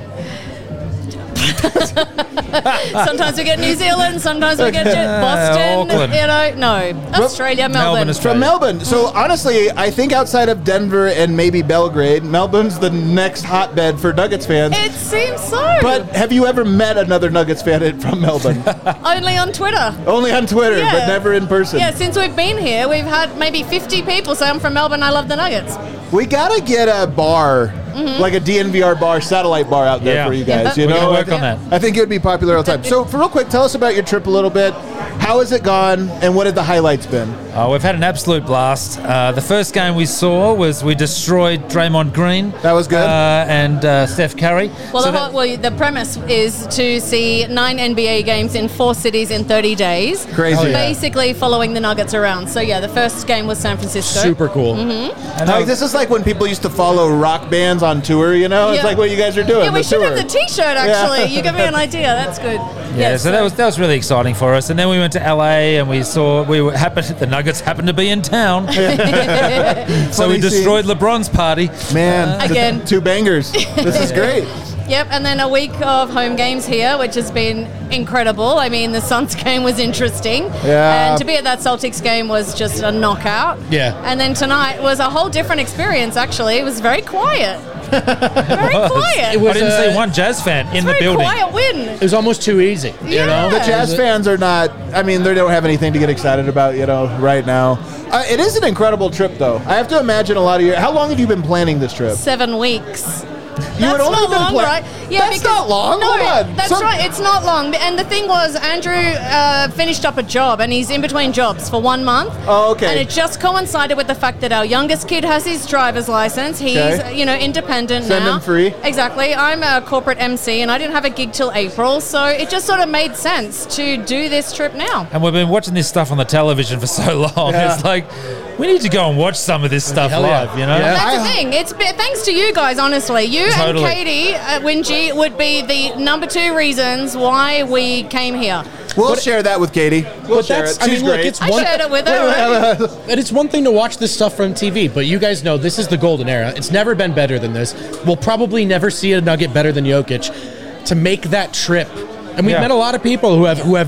Sometimes we get New Zealand, sometimes we get Boston, Auckland. Australia, Melbourne. From Melbourne. So honestly, I think outside of Denver and maybe Belgrade, Melbourne's the next hotbed for Nuggets fans. It seems so. But have you ever met another Nuggets fan from Melbourne? Only on Twitter. Only on Twitter, Yeah. but never in person. Yeah, since we've been here, we've had maybe 50 people say I'm from Melbourne, I love the Nuggets. We gotta get a bar, like a DNVR bar, satellite bar out there for you guys. You We're know, gonna work on that. I think it would be popular all the time. So, for real quick, tell us about your trip a little bit. How has it gone, and what have the highlights been? We've had an absolute blast. The first game we saw was we destroyed Draymond Green. That was good. And Steph Curry. Well, So the premise is to see 9 NBA games in 4 cities in 30 days. Crazy. Oh, yeah. Basically following the Nuggets around. So, yeah, the first game was San Francisco. Super cool. Mm-hmm. Like, this is like when people used to follow rock bands on tour, you know? It's Yeah. like what you guys are doing. Yeah, we the should tour. have the T-shirt, actually. You give me an idea. That's good. Yeah, so that was really exciting for us. And then we went to LA and the Nuggets happened to be in town. So we destroyed LeBron's party. Man, Again. two bangers. This is great. Yep, and then a week of home games here, which has been incredible. I mean, the Suns game was interesting. Yeah. And to be at that Celtics game was just a knockout. Yeah. And then tonight was a whole different experience, actually. It was very quiet. Very quiet. It was, I didn't see one Jazz fan in the very building. quiet win. It was almost too easy. You know? The Jazz fans are not, I mean, they don't have anything to get excited about, you know, right now. It is an incredible trip, though. I have to imagine a lot of how long have you been planning this trip? 7 weeks. You had That's only not been long, pla- right? Yeah, That's not long. No, Hold on. that's right. It's not long. And the thing was, Andrew finished up a job, and he's in between jobs for 1 month. Oh, okay. And it just coincided with the fact that our youngest kid has his driver's license. He's, Okay. independent Send now. him free. Exactly. I'm a corporate MC, and I didn't have a gig till April, so it just sort of made sense to do this trip now. And we've been watching this stuff on the television for so long. Yeah. It's like, we need to go and watch some of this stuff Hell yeah. live, you know? Yeah. That's the thing. It's thanks to you guys, honestly. You Totally. and Katie at Wingy would be the number 2 reasons why we came here. We'll share that with Katie. We'll share it. I She's mean, look, great. it's I shared it with her. And it's one thing to watch this stuff from TV, but you guys know this is the golden era. It's never been better than this. We'll probably never see a Nugget better than Jokic. To make that trip, and we've Yeah. met a lot of people who have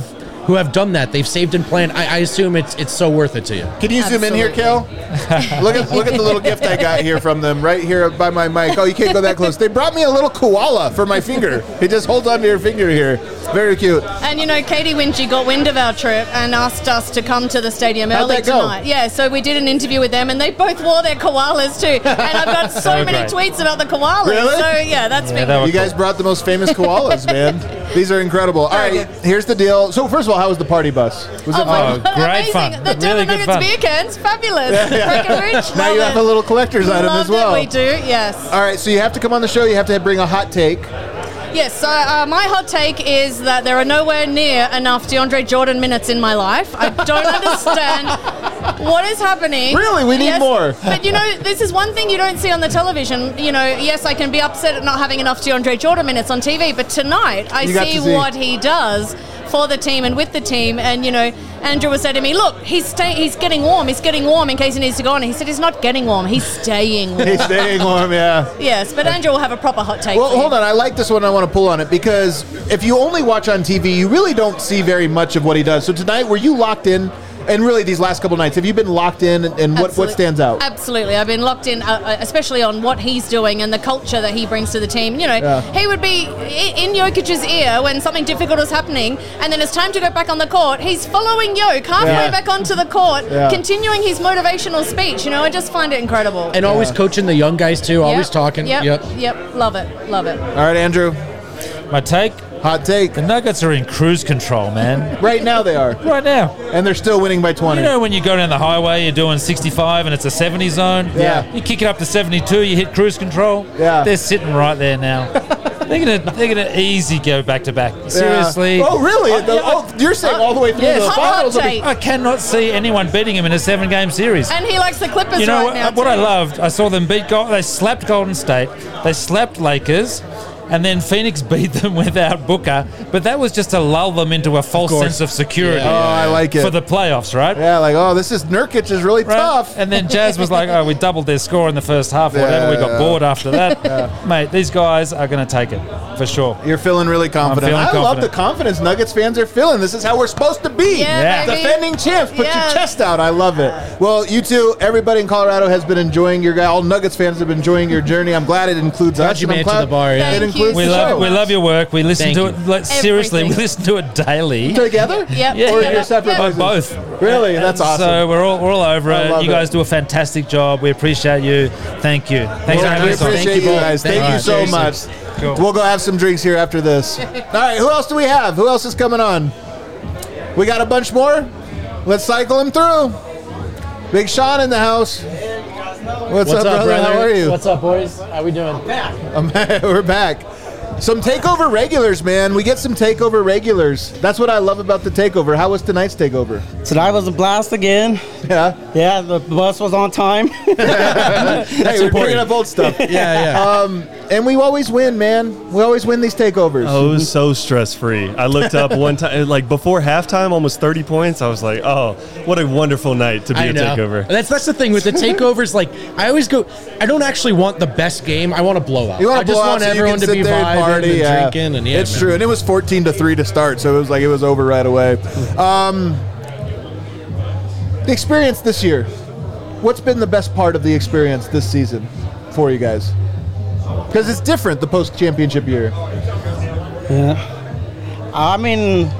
who have done that. They've saved and planned. I assume it's so worth it to you. Can you zoom in here, Kel? Look at the little gift I got here from them right here by my mic. Oh, you can't go that close. They brought me a little koala for my finger. It just holds onto your finger here. Very cute. And Katie Winchie got wind of our trip and asked us to come to the stadium How'd early that go? tonight. Yeah, so we did an interview with them, and they both wore their koalas too. And I've got so many tweets about the koalas. Really? So yeah, that's big. You guys brought the most famous koalas, man. These are incredible. All right, here's the deal. So first of all, how was the party bus? Was it fun? Great amazing. fun. The Denver Really good Nuggets fun. beer cans, fabulous. Breckenridge, Now you have a little collector's item Love as well. that we do, yes. All right, so you have to come on the show. You have to bring a hot take. Yes, so my hot take is that there are nowhere near enough DeAndre Jordan minutes in my life. I don't understand what is happening. Really? We need more. But, this is one thing you don't see on the television. Yes, I can be upset at not having enough DeAndre Jordan minutes on TV, but tonight I see what he does for the team and with the team. And, Andrew was saying to me, look, he's getting warm. He's getting warm in case he needs to go on. And he said he's not getting warm. He's staying warm. He's staying warm, yeah. Yes, but Andrew will have a proper hot take. Well, for you. hold on. I like this one. I want to pull on it because if you only watch on TV, you really don't see very much of what he does. So tonight, were you locked in? And really, these last couple nights, have you been locked in? And what stands out? Absolutely. I've been locked in, especially on what he's doing and the culture that he brings to the team. He would be in Jokic's ear when something difficult is happening, and then it's time to go back on the court. He's following Jokic halfway back onto the court, continuing his motivational speech. I just find it incredible. And always coaching the young guys, too. Always talking. Yep. Love it. All right, Andrew. My take? Hot take. The Nuggets are in cruise control, man. Right now they are. Right now. And they're still winning by 20. You know when you go down the highway, you're doing 65 and it's a 70 zone? Yeah. You kick it up to 72, you hit cruise control? Yeah. They're sitting right there now. They're gonna easy go back to back. Seriously. Oh, really? You're saying all the way through the finals? I cannot see anyone beating him in a 7-game series. And he likes the Clippers right now. What I too. loved, I saw them beat they slapped Golden State, they slapped Lakers, and then Phoenix beat them without Booker. But that was just to lull them into a false sense of security. Yeah. Oh, I like it. For the playoffs, right? Yeah, Nurkic is really tough. And then Jazz was like, we doubled their score in the first half or whatever. We got bored after that. Mate, these guys are going to take it, for sure. You're feeling really confident. I'm feeling love the confidence Nuggets fans are feeling. This is how we're supposed to be. Yeah. Defending champs. Put your chest out. I love it. Well, you two, everybody in Colorado has been enjoying all Nuggets fans have been enjoying your journey. I'm glad it includes us. You made it to the bar. Yeah. It includes we the show. We love your work. We listen to it. Seriously, we Everything. listen to it daily. Together? Yep. Yeah. Or you're separate By places? both. Really? That's awesome. So we're all over I it. love You guys it. do a fantastic job. We appreciate you. Thank you. Thanks for having We us on. appreciate you guys. Thank you so much. Cool. We'll go have some drinks here after this. All right, who else do we have? Who else is coming on? We got a bunch more? Let's cycle them through. Big Sean in the house. What's up, brother? How are you? What's up, boys? How we doing? We're back. Some takeover regulars, man. We get some takeover regulars. That's what I love about the takeover. How was tonight's takeover? Tonight was a blast again. Yeah. Yeah, the bus was on time. Hey, we're bringing up old stuff. And we always win, man. We always win these takeovers. Oh, it was so stress-free. I looked up one time, like before halftime, almost 30 points. I was like, oh, what a wonderful night to be a takeover. That's the thing with the takeovers. Like, I always go, I don't actually want the best game. I want a blowout. You want I to just blow want out so everyone you to can be sit there and vibing party. and drinking. And it's man. true. And it was 14-3 to start, so it was like it was over right away. The experience this year. What's been the best part of the experience this season for you guys? Because it's different the post-championship year. Yeah. I mean,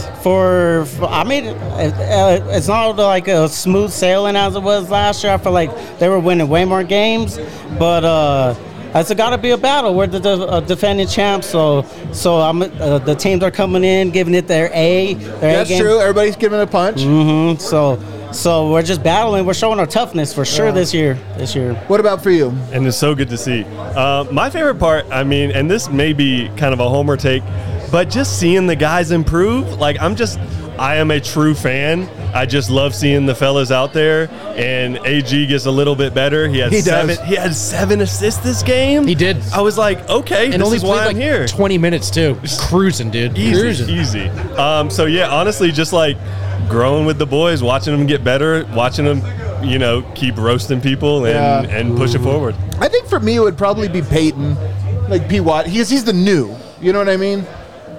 it's not like a smooth sailing as it was last year. I feel like they were winning way more games, but it's got to be a battle. We're the defending champs, so the teams are coming in, giving it their A. That's true. Everybody's giving it a punch. Mm-hmm. So we're just battling. We're showing our toughness for sure this year. What about for you? And it's so good to see. My favorite part, I mean, and this may be kind of a homer take, but just seeing the guys improve. Like I am a true fan. I just love seeing the fellas out there, and AG gets a little bit better. He had 7 assists this game. He did. I was like, okay, and this only is why played I'm like here. 20 minutes too. Cruising, dude. Easy. So yeah, honestly, just like growing with the boys, watching them get better, watching them, keep roasting people and push it forward. I think for me it would probably be Peyton, like P. Watt. He's the new. You know what I mean?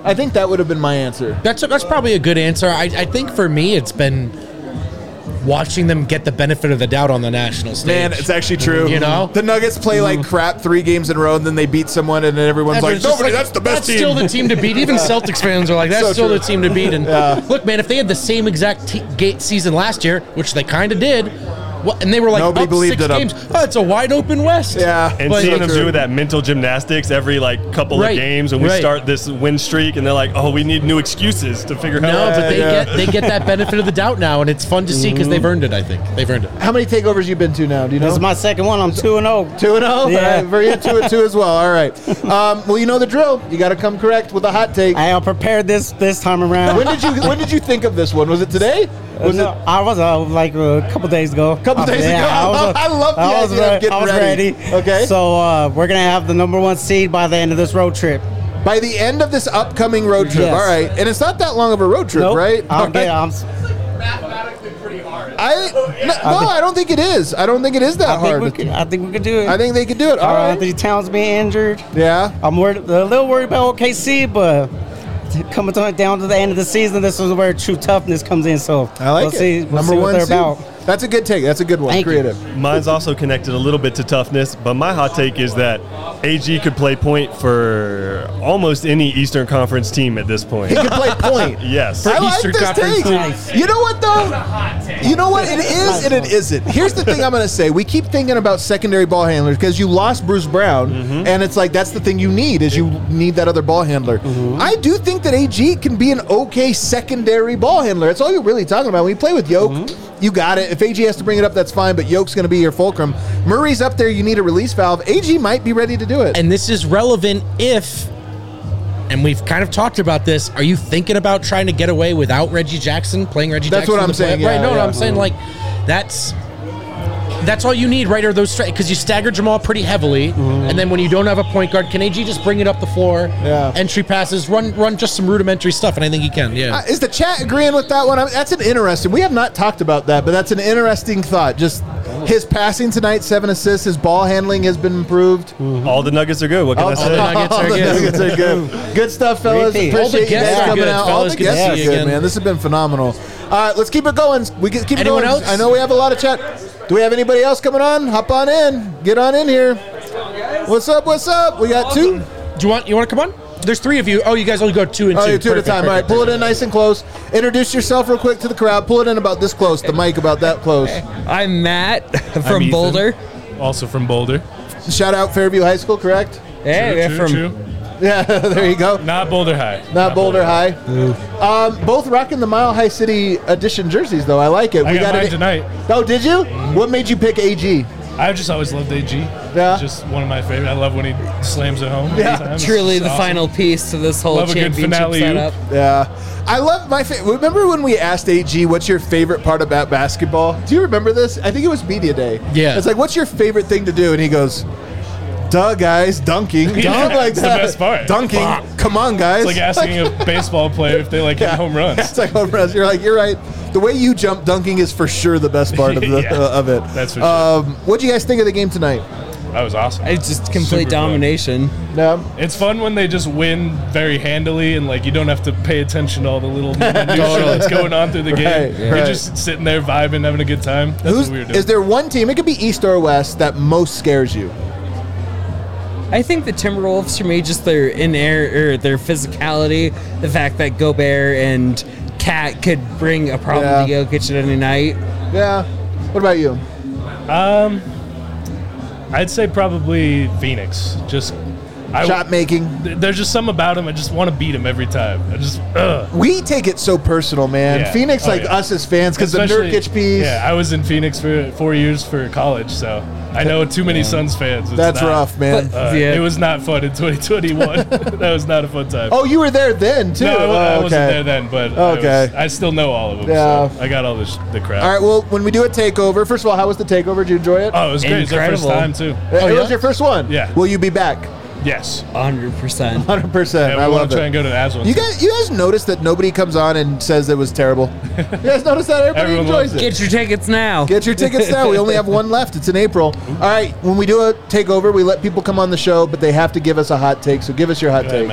I think that would have been my answer. That's probably a good answer. I think for me, it's been watching them get the benefit of the doubt on the national stage. Man, it's actually true. You know? The Nuggets play like crap 3 games in a row, and then they beat someone, and then everyone's like, It's just nobody, that's the best team. That's still the team to beat. Even Celtics fans are like, that's So still true. the team to beat. And look, man, if they had the same exact gate season last year, which they kind of did, and they were like Nobody up believed 6 it up. games, it's a wide open West. Yeah. And But- seeing them do that mental gymnastics every like couple Right, of games when we right. start this win streak, and they're like, "Oh, we need new excuses to figure out." No, but they get that benefit of the doubt now, and it's fun to see because they've earned it. I think they've earned it. How many takeovers you been to now? Do you know? This is my second one. I'm 2-0. 2-0? Yeah. Very into it too as well. All right. Well, you know the drill. You got to come correct with a hot take. I am prepared this time around. When did you think of this one? Was it today? Was no, I was like a couple days ago. Couple days ago? I love the idea of getting ready. Okay. So we're gonna have the number 1 seed by the end of this road trip. By the end of this upcoming road trip. Yes. All right. And it's not that long of a road trip, Nope. right? I'll All get. right. Mathematically pretty hard. I don't think it is. I don't think it is that hard. I think we could do it. I think they could do it. All right. Anthony Towns being injured. Yeah. I'm a little worried about OKC, but coming down to the end of the season, this is where true toughness comes in. So I like we'll it. see. We'll Number see what 1 they're seed. about. That's a good take. That's a good one. Thank you. Creative. Mine's also connected a little bit to toughness, but my hot take is that AG could play point for almost any Eastern Conference team at this point. He could play point. Yes. I like Eastern this Conference take. teams. You know what though? You know what? It is and it isn't. Here's the thing I'm going to say. We keep thinking about secondary ball handlers because you lost Bruce Brown, and it's like that's the thing you need is you need that other ball handler. I do think that AG can be an okay secondary ball handler. That's all you're really talking about. When you play with Yoke, you got it. If AG has to bring it up, that's fine, but Yoke's going to be your fulcrum. Murray's up there. You need a release valve. AG might be ready to do it. And this is relevant if, and we've kind of talked about this, are you thinking about trying to get away without Reggie Jackson, playing Reggie That's Jackson? what in I'm the saying, play- right, yeah, no, yeah. I'm saying like that's all you need, right? Are those because you stagger Jamal pretty heavily, and then when you don't have a point guard, can AG just bring it up the floor? Yeah. Entry passes, run just some rudimentary stuff, and I think he can. Yeah. Is the chat agreeing with that one? That's an interesting. We have not talked about that, but that's an interesting thought. Just his passing tonight, 7 assists. His ball handling has been improved. All the Nuggets are good. What can I say? All the Nuggets are good. Good stuff, fellas. Repeat. Appreciate All the you guests guys are coming good, out. fellas. All the Good to guests see are you good, again. man. This has been phenomenal. All right, let's keep it going. Keep it Anyone going. else? I know we have a lot of chat. Do we have anybody else coming on? Hop on in. Get on in here. What's up? What's up? We got 2. Do you want to come on? There's 3 of you. Oh, you guys only go 2 and 2. Oh, you're 2 at a Perfect, time. All right, perfect, pull it in nice and close. Introduce yourself real quick to the crowd. Pull it in about this close. The mic about that close. I'm Matt I'm from Ethan, Boulder. Also from Boulder. Shout out Fairview High School, correct? Yeah, True, from true. Yeah, there you go. Not Boulder High. Not Boulder High. Both rocking the Mile High City edition jerseys, though. I like it. I got mine tonight. Oh, did you? What made you pick AG? I've just always loved AG. Yeah. Just one of my favorite. I love when he slams it home. Yeah. every time. It's truly just the awesome. final piece to this whole Love a good championship finale. setup. Yeah. I love my remember when we asked AG, what's your favorite part about basketball? Do you remember this? I think it was Media Day. Yeah. It's like, what's your favorite thing to do? And he goes, duh, guys, dunking. Yeah, Dunk like it's the that. best part. Dunking. Come on, guys. It's like asking a baseball player if they like hit home runs. It's like home runs. You're like, you're right. The way you jump dunking is for sure the best part of the Yeah, of it. that's for sure. What'd you guys think of the game tonight? That was awesome. It's just complete Super fun. domination. Yeah. It's fun when they just win very handily and like you don't have to pay attention to all the little minutia that's going on through the game. Right, You're right. just sitting there vibing, having a good time. That's what we were doing. Is there one team, it could be East or West, that most scares you? I think the Timberwolves, for me, just their their physicality, the fact that Gobert and Cat could bring a problem to Jokic at any night. Yeah. What about you? I'd say probably Phoenix. Just Shot making. There's just something about him. I just want to beat him every time. I just. We take it so personal, man. Yeah. Phoenix, Oh, like yeah. us as fans, because the Especially- Nurkic piece. Yeah, I was in Phoenix for 4 years for college, so I know too many Suns fans. It's That's not- rough, man. It was not fun in 2021. That was not a fun time. Oh, you were there then, too. No, I wasn't Okay. there then, but Okay. I still know all of them. Yeah. So I got all the crap. All right, well, when we do a takeover, first of all, how was the takeover? Did you enjoy it? Oh, it was great. It's our first time, too. It was your first one? Yeah. Will you be back? Yes. 100%. 100%. Yeah, I we love want to try it. and go to the Avs one. You too. guys notice that nobody comes on and says it was terrible? You guys notice that? Everybody Everyone enjoys loves it. Get your tickets now. Get your tickets now. We only have one left. It's in April. All right, when we do a takeover, we let people come on the show, but they have to give us a hot take. So give us your hot Go ahead, take. Matt.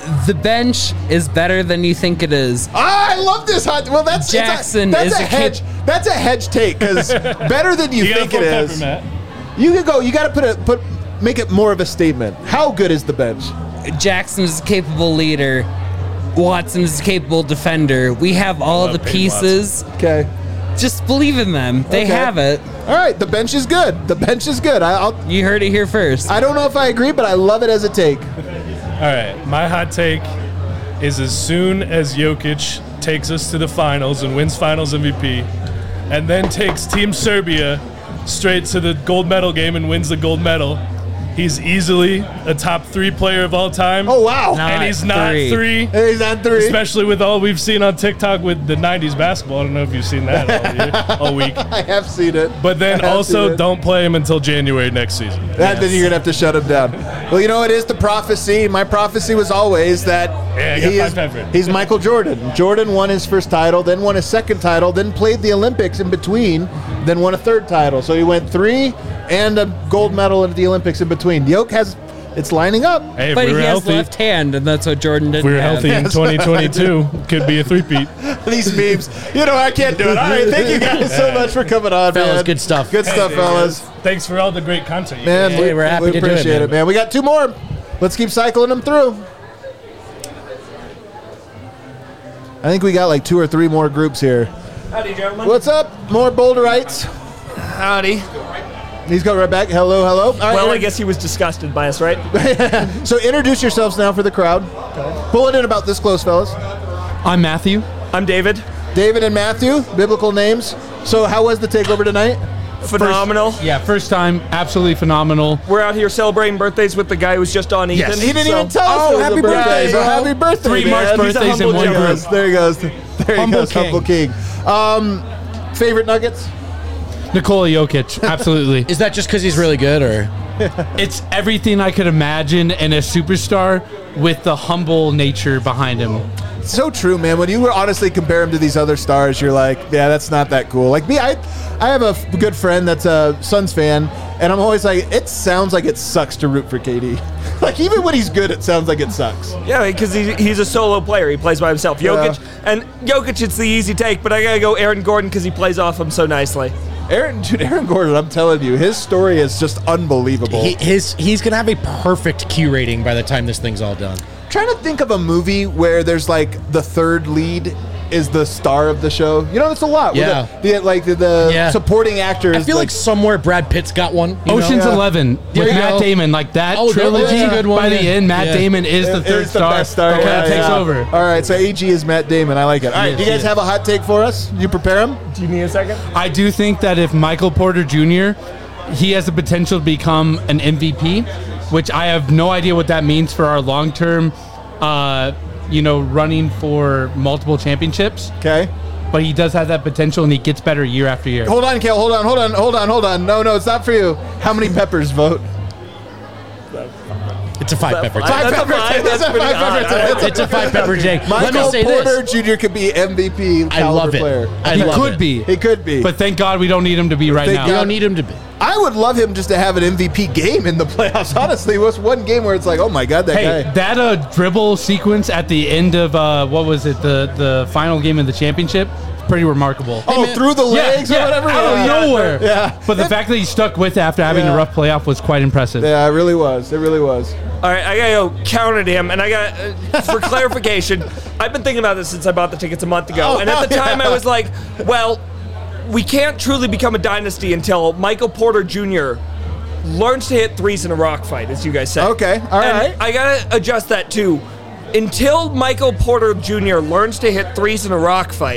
The bench is better than you think it is. I love this hot. Well, that's Jackson that's is a hedge. That's a hedge take because better than you think it is. Matt. You can go. You got to make it more of a statement. How good is the bench? Jackson is a capable leader. Watson is a capable defender. We have all the pieces. Okay. Just believe in them. They have it. All right. The bench is good. The bench is good. You heard it here first. I don't know if I agree, but I love it as a take. All right, my hot take is as soon as Jokic takes us to the finals and wins finals MVP, and then takes Team Serbia straight to the gold medal game and wins the gold medal, he's easily a top 3 player of all time. Oh, wow. And he's not 3. He's not 3. Especially with all we've seen on TikTok with the 90s basketball. I don't know if you've seen that all week. I have seen it. But then also don't play him until January next season. Then you're going to have to shut him down. Well, you know, it is the prophecy. My prophecy was always that he's Michael Jordan. Jordan won his first title, then won his second title, then played the Olympics in between, then won a third title. So he went 3 and a gold medal at the Olympics in between. Yoke it's lining up. Hey, but he has left hand, and that's what Jordan didn't If we were have. healthy in 2022, could be a three-peat. These memes. You know, I can't do it. All right, thank you guys so much for coming on, Fellas, man. good stuff. Good stuff, fellas. Thanks for all the great content. you Man, guys. we're happy to do it, appreciate it, man. We got 2 more. Let's keep cycling them through. I think we got like 2 or 3 more groups here. Howdy, gentlemen. What's up? More Boulderites. Howdy. He's going right back. Hello, hello. All right, Well, I guess he was disgusted by us, right? So introduce yourselves now for the crowd. Pull it in about this close, fellas. I'm Matthew. I'm David. David and Matthew, biblical names. So how was the takeover tonight? Phenomenal. First time, absolutely phenomenal. We're out here celebrating birthdays with the guy who was just on Ethan. Yes. He didn't even tell us it was happy a birthday. birthday, So bro. happy birthday, 3 March man. birthdays He's a in one humble group. gentleman. There he goes. There he Humble goes. king. Humble king. Favorite Nuggets? Nikola Jokic, absolutely. Is that just because he's really good, or? It's everything I could imagine in a superstar with the humble nature behind him. So true, man. When you honestly compare him to these other stars, you're like, yeah, that's not that cool. Like me, I have a good friend that's a Suns fan, and I'm always like, it sounds like it sucks to root for KD. Like even when he's good, it sounds like it sucks. Yeah, because he's a solo player. He plays by himself. Jokic, it's the easy take, but I got to go Aaron Gordon because he plays off him so nicely. Aaron Gordon, I'm telling you, his story is just unbelievable. He's gonna have a perfect Q rating by the time this thing's all done. Trying to think of a movie where there's like the third lead is the star of the show. You know, it's a lot. Yeah. The supporting actors. I feel like somewhere Brad Pitt's got one. Ocean's 11 with Matt Damon, like that trilogy. that's a good one, by the end, Matt Damon is the third star. best star. That kind of takes over. All right, so AG is Matt Damon. I like it. All right, Yes, do you guys yes. have a hot take for us? You prepare him? Do you need a second? I do think that if Michael Porter Jr., he has the potential to become an MVP, which I have no idea what that means for our long-term, running for multiple championships. Okay. But he does have that potential, and he gets better year after year. Hold on, Kale. Hold on. No, it's not for you. How many peppers vote? It's a 5 pepper. It's a 5 pepper Jake. Let me Michael say Porter this. Jr. could be MVP I love caliber it. player. I love it. He could be. But thank God we don't need him to be right now. We don't need him to be. I would love him just to have an MVP game in the playoffs. Honestly, it was one game where it's like, oh my God, that guy. That dribble sequence at the end of the final game of the championship, pretty remarkable. Through the legs or whatever? out of nowhere. Yeah. But the fact that he stuck with it after having a rough playoff was quite impressive. Yeah, it really was. It really was. All right, I gotta go counter him, and I got for clarification. I've been thinking about this since I bought the tickets a month ago, and at the time I was like, well, we can't truly become a dynasty until Michael Porter Jr. learns to hit threes in a rock fight, as you guys said. Okay, all right. I gotta adjust that too. Until Michael Porter Jr. learns to hit threes in a rock fight,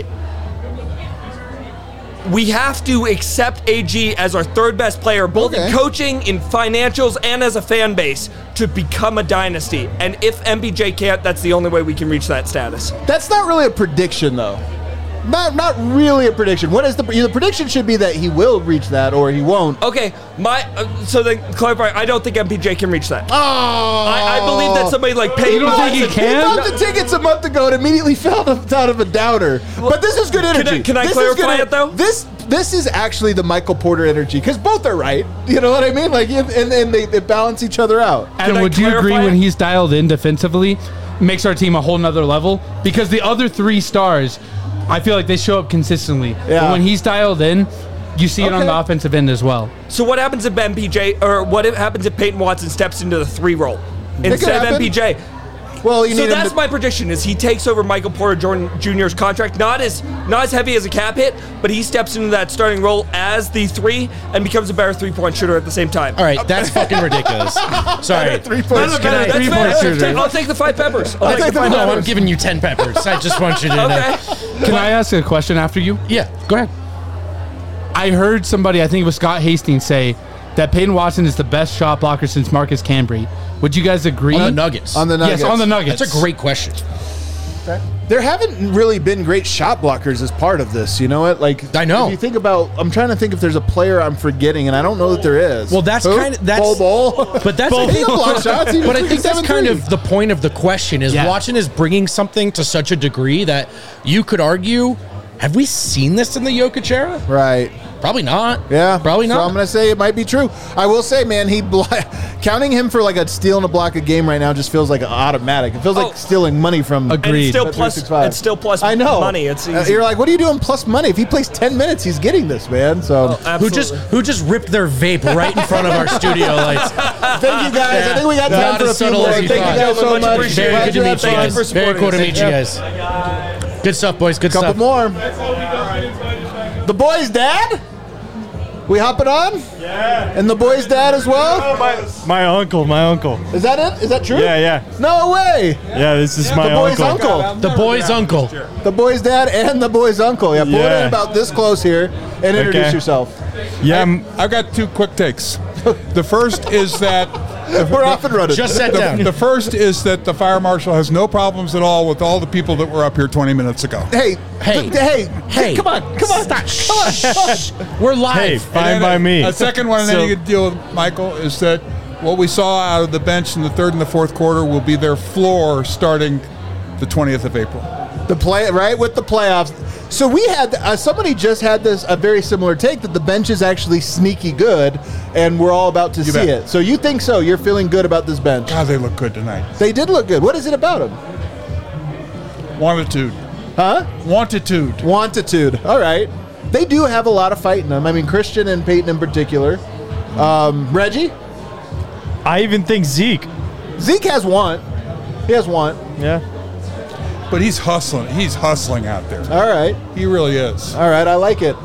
we have to accept AG as our third best player, both in coaching, in financials, and as a fan base, to become a dynasty. And if MPJ can't, that's the only way we can reach that status. That's not really a prediction, though. Not really a prediction. What is the prediction should be that he will reach that or he won't. Okay, so then clarify. I don't think MPJ can reach that. Oh, I believe that somebody like Peyton. You don't think he can? He bought the tickets a month ago and immediately fell out of a downer. But this is good energy. Can I clarify it though? This is actually the Michael Porter energy because both are right. You know what I mean? Like, and they balance each other out. And would you agree when he's dialed in defensively? makes our team a whole nother level because the other 3 stars, I feel like they show up consistently. Yeah. But when he's dialed in, you see it on the offensive end as well. So what happens if MPJ or what happens if Peyton Watson steps into the 3 role instead of MPJ? Well, so that's my prediction: is he takes over Michael Porter Jr.'s contract, not as heavy as a cap hit, but he steps into that starting role as the 3 and becomes a better 3-point shooter at the same time. All right, that's fucking ridiculous. Sorry, I'll take the 5 peppers. I'll take the 5 No, peppers. I'm giving you 10 peppers. I just want you to know. Can I ask a question after you? Yeah, go ahead. I heard somebody, I think it was Scott Hastings, say that Peyton Watson is the best shot blocker since Marcus Camby. Would you guys agree? On the Nuggets. On the Nuggets. Yes, on the Nuggets. That's a great question. There haven't really been great shot blockers as part of this. You know what? Like I know. If you think about, I'm trying to think if there's a player I'm forgetting, and I don't know that there is. Well, that's kind of Bol. But that's He can block shots. He but I was think that's 7'3". kind of the point of the question. Is Watson is bringing something to such a degree that you could argue, have we seen this in the Jokic era? Right. Probably not. Yeah, probably not. So I'm gonna say it might be true. I will say, man, counting him for like a steal and a block a game right now just feels like automatic. It feels like stealing money from. Agreed. It's still plus I know money. It's easy. You're like, what are you doing plus money? If he plays 10 minutes, he's getting this, man. So who just ripped their vape right in front of our studio lights? Thank you guys. I think we got time for a few more. Thank you guys so much. Very good to meet you guys. Very cool to meet you guys. Good stuff, boys. Good stuff. Couple more. The boys' dad. We hopping on? Yeah. And the boy's dad as well? My uncle. Is that it? Is that true? Yeah. No way. Yeah, this is my the boy's uncle. The boy's uncle. The boy's dad and the boy's uncle. Yeah, pull it in about this close here and introduce yourself. Yeah, I've got 2 quick takes. The first is that we're off and running. Just sat down. The first is that the fire marshal has no problems at all with all the people that were up here 20 minutes ago. Hey, come on. Stop. We're live. Hey, fine by me. A second one, and then you could deal with Michael, is that what we saw out of the bench in the 3rd and the 4th quarter will be their floor starting the 20th of April. The play right with the playoffs. So we had somebody just had a very similar take that the bench is actually sneaky good, and we're all about to see bet. it. So you think so? You're feeling good about this bench? God, they look good tonight. They did look good. What is it about them? Wantitude. Huh? Wantitude. All right. They do have a lot of fight in them. I mean, Christian and Peyton in particular. Reggie? I even think Zeke has want. He has want. Yeah. But he's hustling. He's hustling out there. All right. He really is. All right. I like it.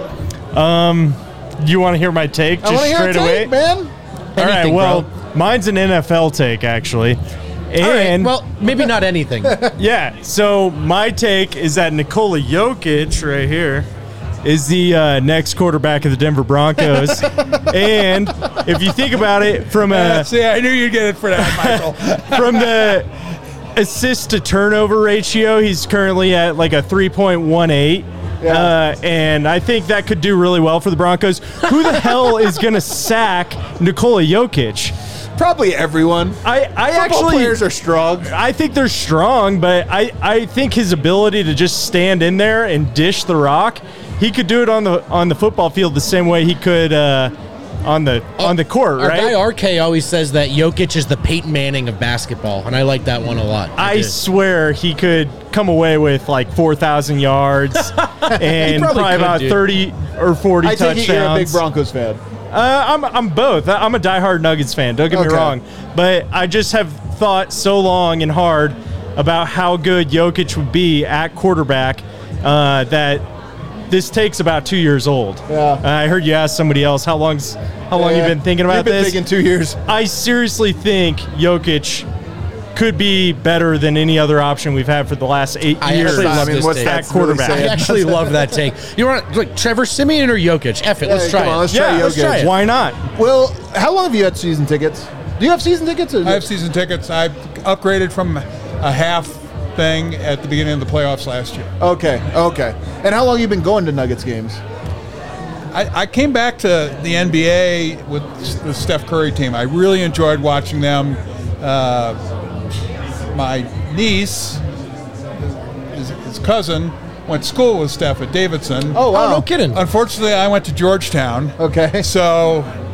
You want to hear my take just straight away? Man. All right. Well, mine's an NFL take actually. And well, maybe not anything. Yeah. So my take is that Nikola Jokic right here is the next quarterback of the Denver Broncos. And if you think about it from a see, I knew you'd get it for that, Michael. From the assist to turnover ratio, he's currently at like a 3.18. And I think that could do really well for the Broncos. Who the hell is going to sack Nikola Jokic? Probably everyone. I actually players are strong. I think they're strong, but I think his ability to just stand in there and dish the rock, he could do it on the football field the same way he could on the court, Our right? guy RK always says that Jokic is the Peyton Manning of basketball, and I like that one a lot. I swear he could come away with like 4,000 yards and probably about 30 or 40 touchdowns. I take it you're a big Broncos fan. I'm both. I'm a diehard Nuggets fan. Don't get me wrong, but I just have thought so long and hard about how good Jokic would be at quarterback that this takes about 2 years old. Yeah. I heard you ask somebody else how long you been thinking about this. You've been thinking 2 years. I seriously think Jokic could be better than any other option we've had for the last 8 years. I actually love this take. At quarterback. I actually love that take. You want like Trevor Siemian or Jokic? F it. Let's try it. Let's try Jokic. Why not? Well, how long have you had season tickets? Do you have season tickets? I have season tickets. I upgraded from a half thing at the beginning of the playoffs last year. Okay. And how long have you been going to Nuggets games? I came back to the NBA with the Steph Curry team. I really enjoyed watching them. My niece, his cousin, went to school with Steph at Davidson. Oh, wow. No kidding. Unfortunately, I went to Georgetown. Okay. So you can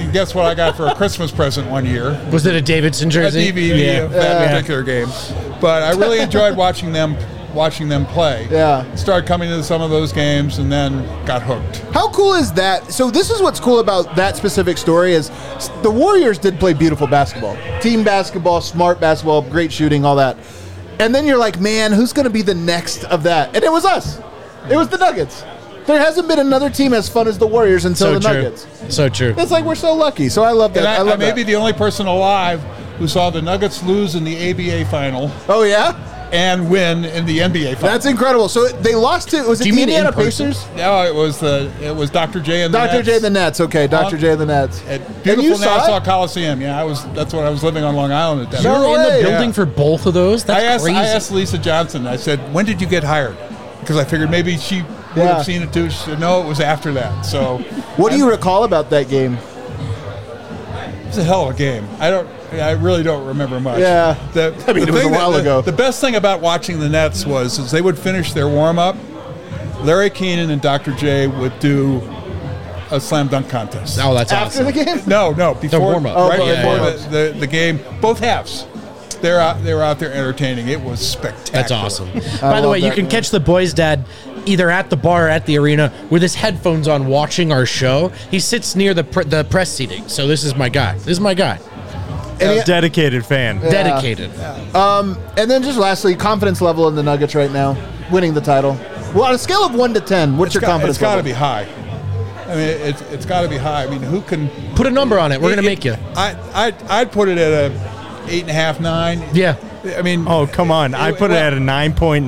can guess what I got for a Christmas present one year. Was it a Davidson jersey? A DVD of that particular game. But I really enjoyed watching them play. Yeah. Started coming to some of those games and then got hooked. How cool is that? So this is what's cool about that specific story is the Warriors did play beautiful basketball. Team basketball, smart basketball, great shooting, all that. And then you're like, man, who's going to be the next of that? And it was us. It was the Nuggets. There hasn't been another team as fun as the Warriors until the Nuggets. So true. It's like we're so lucky. So I love that. And I love may that. be the only person alive who saw the Nuggets lose in the ABA final. Oh, yeah? And win in the NBA final. That's incredible. So they lost to, was it the Indiana Pacers? No, it was Dr. J and the Nets. Dr. J and the Nets. Okay, Dr. J and the Nets. At And beautiful you saw Nassau it? Coliseum. Yeah, that's when I was living on Long Island at that You time. were in the building for both of those? That's crazy. I asked Lisa Johnson. I said, when did you get hired? Because I figured maybe she would have seen it too. She said, no, it was after that. So, what do you recall about that game? It was a hell of a game. I really don't remember much. Yeah. It was a while ago. The best thing about watching the Nets was they would finish their warm-up. Larry Keenan and Dr. J would do a slam dunk contest. Oh, that's After awesome. the game? No, before warm-up. right Oh, before the game, both halves. They were out there entertaining. It was spectacular. That's awesome. By the way, you can catch the boys' dad either at the bar or at the arena with his headphones on watching our show. He sits near the press seating. So this is my guy. Dedicated fan. Yeah. Dedicated. And then just lastly, confidence level in the Nuggets right now, winning the title. Well, on a scale of 1 to 10, what's your confidence It's got to level? be high. I mean, it's got to be high. I mean, who can put a number on it? We're gonna make you. I'd put it at a 8.5, 9. Yeah. I mean, oh come on! I put it at a 9.9.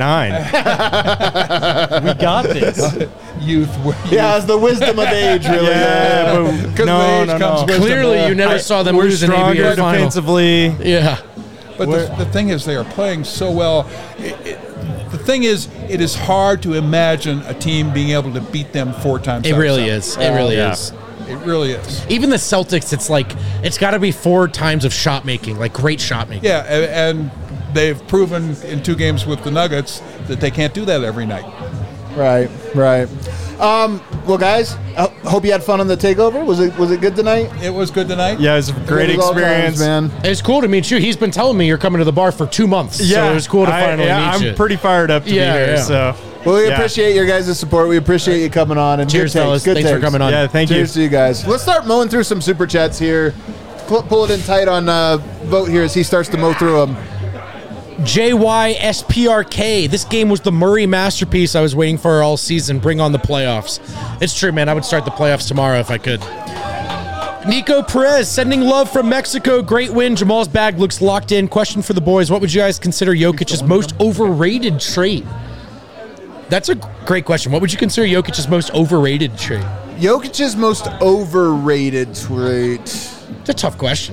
We got this. Youth. Yeah, it's the wisdom of age, really. Yeah, but no. Clearly, you never saw them lose an stronger ABA final. defensively. Yeah. But the thing is, they are playing so well. The thing is, it is hard to imagine a team being able to beat them 4 times. It really is. It really is. It really is. Even the Celtics, it's like it's got to be 4 times of shot making, like great shot making. Yeah, and they've proven in 2 games with the Nuggets that they can't do that every night. Right. Well, guys, I hope you had fun on the takeover. Was it good tonight? It was good tonight. Yeah, it was a great experience, man. It's cool to meet you. He's been telling me you're coming to the bar for 2 months. So it was cool to finally meet you. I'm pretty fired up to be here. So. Well, we appreciate your guys' support. We appreciate you coming on. And cheers, fellas. Good Thanks for coming on. Yeah, thank you. Cheers to you guys. Let's start mowing through some super chats here. Pull it in tight on Vote here as he starts to mow through them. JYSPRK. This game was the Murray masterpiece I was waiting for all season. Bring on the playoffs. It's true, man. I would start the playoffs tomorrow if I could. Nico Perez sending love from Mexico. Great win. Jamal's bag looks locked in. Question for the boys. What would you guys consider Jokic's most overrated trait? That's a great question. What would you consider Jokic's most overrated trait? Jokic's most overrated trait. It's a tough question.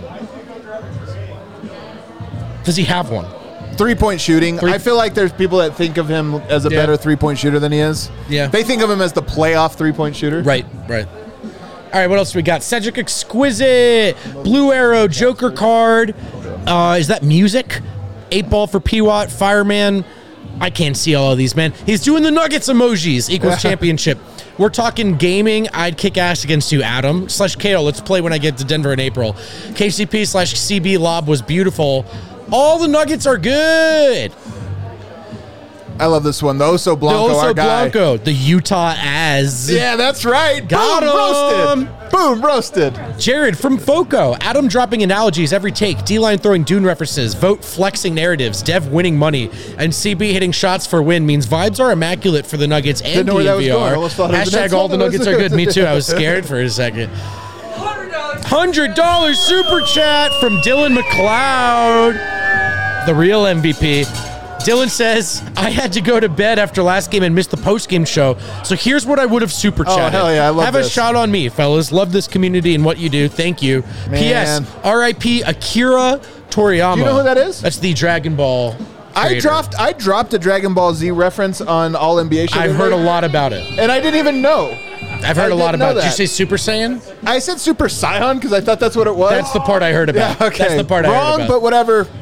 Does he have one? 3-point shooting. I feel like there's people that think of him as a better 3-point shooter than he is. Yeah. They think of him as the playoff 3-point shooter. Right. All right, what else do we got? Cedric Exquisite, Blue Arrow, Joker card. Is that music? 8-ball for P-Watt, Fireman. I can't see all of these, man. He's doing the Nuggets emojis. Equals championship. We're talking gaming. I'd kick ass against you, Adam. /Kato. Let's play when I get to Denver in April. KCP/CB lob was beautiful. All the Nuggets are good. I love this one. The Oso Blanco, the Oso our guy. Blanco, the Utah Az. Yeah, that's right. Got Boom, him. roasted. Boom, roasted. Jared from Foco. Adam dropping analogies every take. D-line throwing Dune references. Vote flexing narratives. Dev winning money. And CB hitting shots for win means vibes are immaculate for the Nuggets and Didn't know where that was going. I DNVR. almost thought it was the Hashtag next all one. the Nuggets are good. Me too. I was scared for a second. $100 super chat from Dylan McLeod, the real MVP. Dylan says, I had to go to bed after last game and missed the post-game show, so here's what I would have super chatted. Oh, hell yeah, I love Have this. a shot on me, fellas. Love this community and what you do. Thank you. Man. P.S. R.I.P. Akira Toriyama. Do you know who that is? That's the Dragon Ball creator. I dropped a Dragon Ball Z reference on All NBA show. I've heard a lot about it. And I didn't even know. I've heard a lot didn't know about it. Did you that. say Super Saiyan? I said Super Saiyan because I thought that's what it was. That's the part I heard about. Yeah, okay. That's the part I heard Wrong, about. but whatever.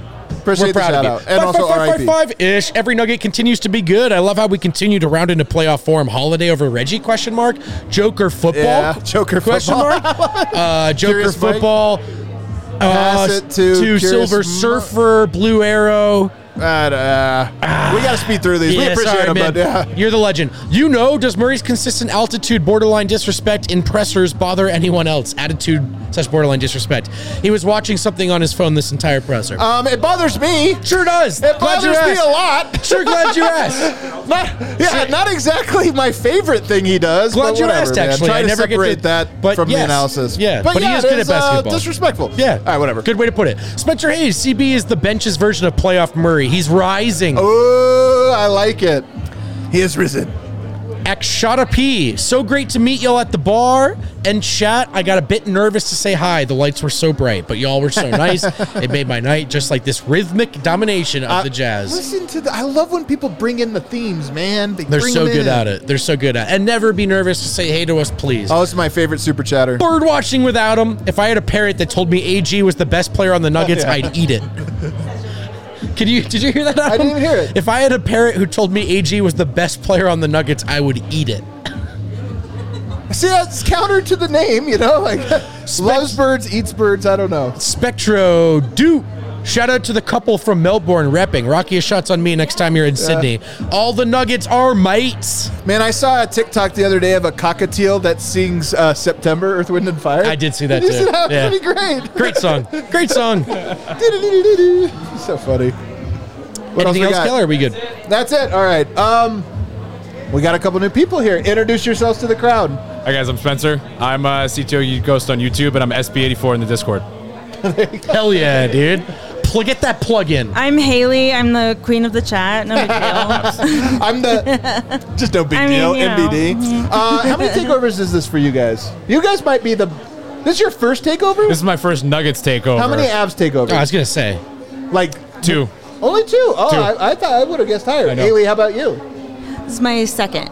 Appreciate We're proud the of shout you. out. And also RIP. 5-5-5-ish. Every Nugget continues to be good. I love how we continue to round into playoff form. Holiday over Reggie? Question mark. Joker football? Yeah, Joker question football. mark. Joker Curious Mike. football. Pass it to Silver Curious Surfer, Blue Arrow. We got to speed through these. We appreciate sorry, them, man. but yeah. You're the legend. Does Murray's consistent altitude, borderline disrespect in pressers bother anyone else? Attitude / borderline disrespect. He was watching something on his phone this entire presser. It bothers me. Sure does. It bothers me a lot. Sure, glad you asked. Not exactly my favorite thing he does. Glad but you whatever, asked, man. actually. Try I to never get separate to- that but from yes. the analysis. Yeah, but he is it good at basketball. Disrespectful. Yeah. All right, whatever. Good way to put it. Spencer Hayes, CB is the bench's version of playoff Murray. He's rising. Oh, I like it. He has risen. Akshata P. So great to meet y'all at the bar and chat. I got a bit nervous to say hi. The lights were so bright, but y'all were so nice. It made my night, just like this rhythmic domination of the Jazz. Listen to I love when people bring in the themes, man. They're so good at it. They're so good at it. And never be nervous to say hey to us, please. Oh, this is my favorite super chatter. Bird watching without him. If I had a parrot that told me AG was the best player on the Nuggets, I'd eat it. Did you hear that, Adam? I didn't even hear it. If I had a parrot who told me AG was the best player on the Nuggets, I would eat it. See, that's counter to the name, like loves birds, eats birds. I don't know. Spectro Duke. Shout out to the couple from Melbourne repping. Rocky shots on me next time you're in Sydney. All the Nuggets are mates. Man, I saw a TikTok the other day of a cockatiel that sings September, Earth, Wind, and Fire. I did see that Did you too. see that? Yeah. Pretty great. Great song. Great song. So funny. What Anything we else, got? Keller? Are we good? That's it. All right. We got a couple new people here. Introduce yourselves to the crowd. Hi guys, I'm Spencer. I'm CTO Ghost on YouTube, and I'm SB84 in the Discord. Hell yeah, dude. Get that plug in. I'm Haley. I'm the queen of the chat. No big deal. I'm the just no big I mean, deal. you know. NBD. How many takeovers is this for you guys? You guys might be this is your first takeover? This is my first Nuggets takeover. How many Avs takeovers? I was gonna say, like 2. Only 2. Oh, Two. I thought I would have guessed higher. I know. Haley, how about you? This is my second.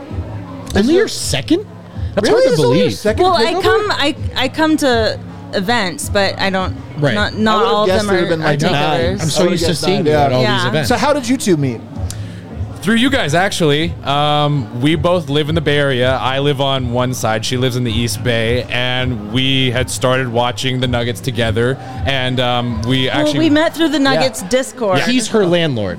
Only your second? That's Really? hard to This is only your believe. second Well, takeover? I come to events, but I don't. Right. Not I would've all of guessed them it would've are, been are like 9. takeovers. I'm so used to seeing you at all these events. So how did you two meet? Through you guys, actually. We both live in the Bay Area. I live on one side. She lives in the East Bay. And we had started watching the Nuggets together. And we actually... we met through the Nuggets Discord. He's her landlord.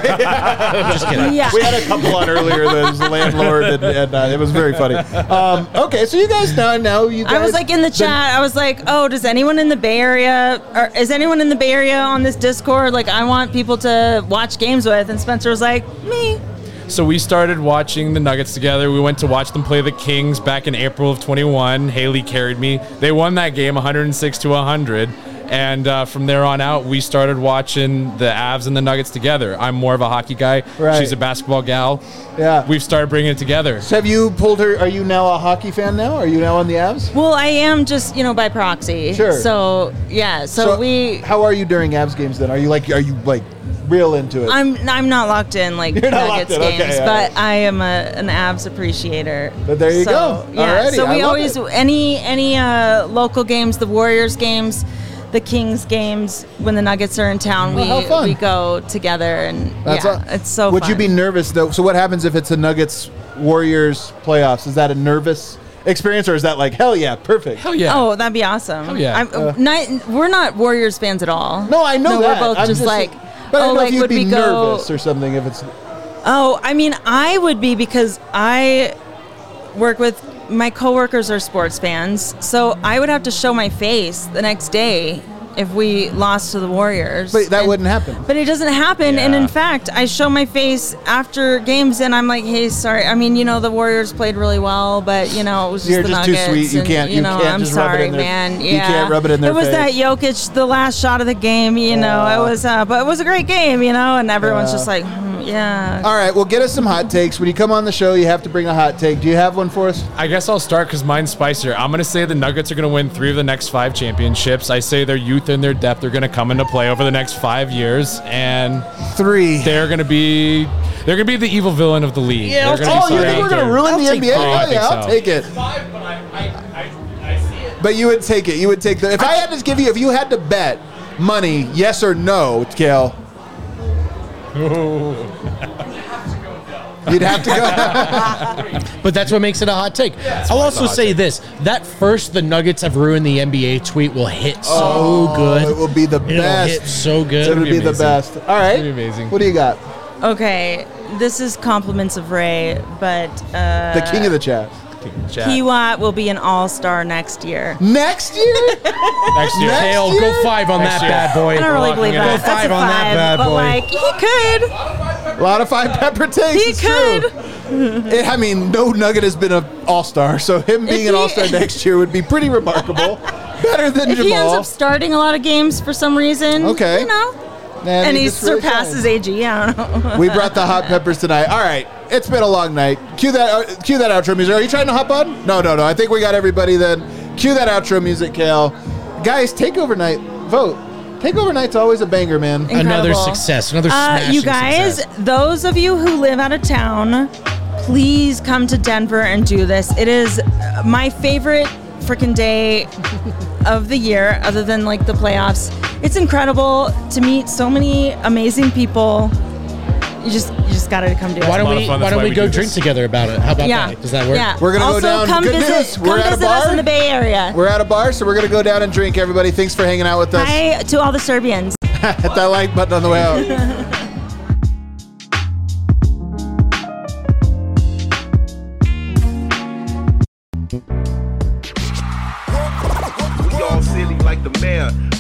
I'm just kidding. Yeah. We had a couple on earlier that was the landlord, and it was very funny. Okay, so you guys know you guys. I was like in the chat. I was like, "Oh, does anyone in the Bay Area, or is anyone in the Bay Area on this Discord? Like, I want people to watch games with." And Spencer was like, "Me." So we started watching the Nuggets together. We went to watch them play the Kings back in April of 21. Haley carried me. They won that game 106-100. And from there on out, we started watching the Avs and the Nuggets together. I'm more of a hockey guy. Right. She's a basketball gal. Yeah. We've started bringing it together. So have you pulled her? Are you now a hockey fan now? Are you now on the Avs? Well, I am just by proxy. Sure. So yeah. So we. How are you during Avs games then? Are you like real into it? I'm not locked in like You're not Nuggets locked in, games, okay, but I am an Avs appreciator. But there you So, go. Yeah. Alrighty, So I we love always it. any local games, the Warriors games, the Kings games, when the Nuggets are in town, Oh, how fun. we go together, and it's so. Would fun. you be nervous though? So what happens if it's a Nuggets Warriors playoffs? Is that a nervous experience, or is that like hell yeah, perfect? Hell yeah. Oh, that'd be awesome. Hell yeah. We're not Warriors fans at all. No, I know that. We're both I'm just like. But I don't know like if you'd would be we go? nervous or something if it's. Oh, I mean, I would be because I work with my coworkers are sports fans, so I would have to show my face the next day if we lost to the Warriors. But that wouldn't happen. But it doesn't happen, and in fact, I show my face after games, and I'm like, "Hey, sorry. I mean, the Warriors played really well, but it was just You're the just too Nuggets. sweet. You and, can't- you can't I'm just rub it sorry, in their- man. you Yeah, can't rub it in their It was face. that Jokic, the last shot of the game. It was, but it was a great game. And everyone's just like, yeah. All right, well, get us some hot takes. When you come on the show, you have to bring a hot take. Do you have one for us? I guess I'll start because mine's spicier. I'm going to say the Nuggets are going to win 3 of the next 5 championships. I say their youth and their depth are going to come into play over the next 5 years, and 3. They're going to be the evil villain of the league. Yeah, They're gonna be you think we're going to ruin the NBA? Oh, I Oh, think yeah, I'll so. take it. But you would take it. You would take the. If I had to give you, if you had to bet money, yes or no, Kale? You'd have to go. But that's what makes it a hot take. I'll also say this: that first "the Nuggets have ruined the NBA" tweet will hit so good. It will be the It'll best. hit so good. It'll be the best. All right. Amazing. What do you got? Okay, this is compliments of Ray, but The king of the chat. Kiwat will be an all-star next year. Next year? Next year. Kale, go 5 on that bad boy. I don't really believe that. Go 5 That's a on that 5, bad but boy. like he could. A lot of 5 pepper takes. He it's could. True. I mean, no Nugget has been an all-star, so him being an all-star next year would be pretty remarkable. Better than If Jamal. he ends up starting a lot of games for some reason, Okay. you know, Man, and he just really surpasses AG, I don't know. We brought the hot peppers tonight. All right, it's been a long night. Cue that outro music. Are you trying to hop on? No. I think we got everybody then. Cue that outro music, Kale. Guys, Takeover Night, vote. Takeover Night's always a banger, man. Another success. Another smashing you guys, success. those of you who live out of town, please come to Denver and do this. It is my favorite freaking day of the year, other than like the playoffs. It's incredible to meet so many amazing people. You just got to come do it. Why don't we go drink together about it? How about that? Does that work? Yeah. We're gonna also, go down. Come Good visit, news. Come We're at a visit us bar. in the Bay Area. We're at a bar, so we're gonna go down and drink. Everybody, thanks for hanging out with us. Hi to all the Serbians. Hit that like button on the way out. We all silly like the mayor.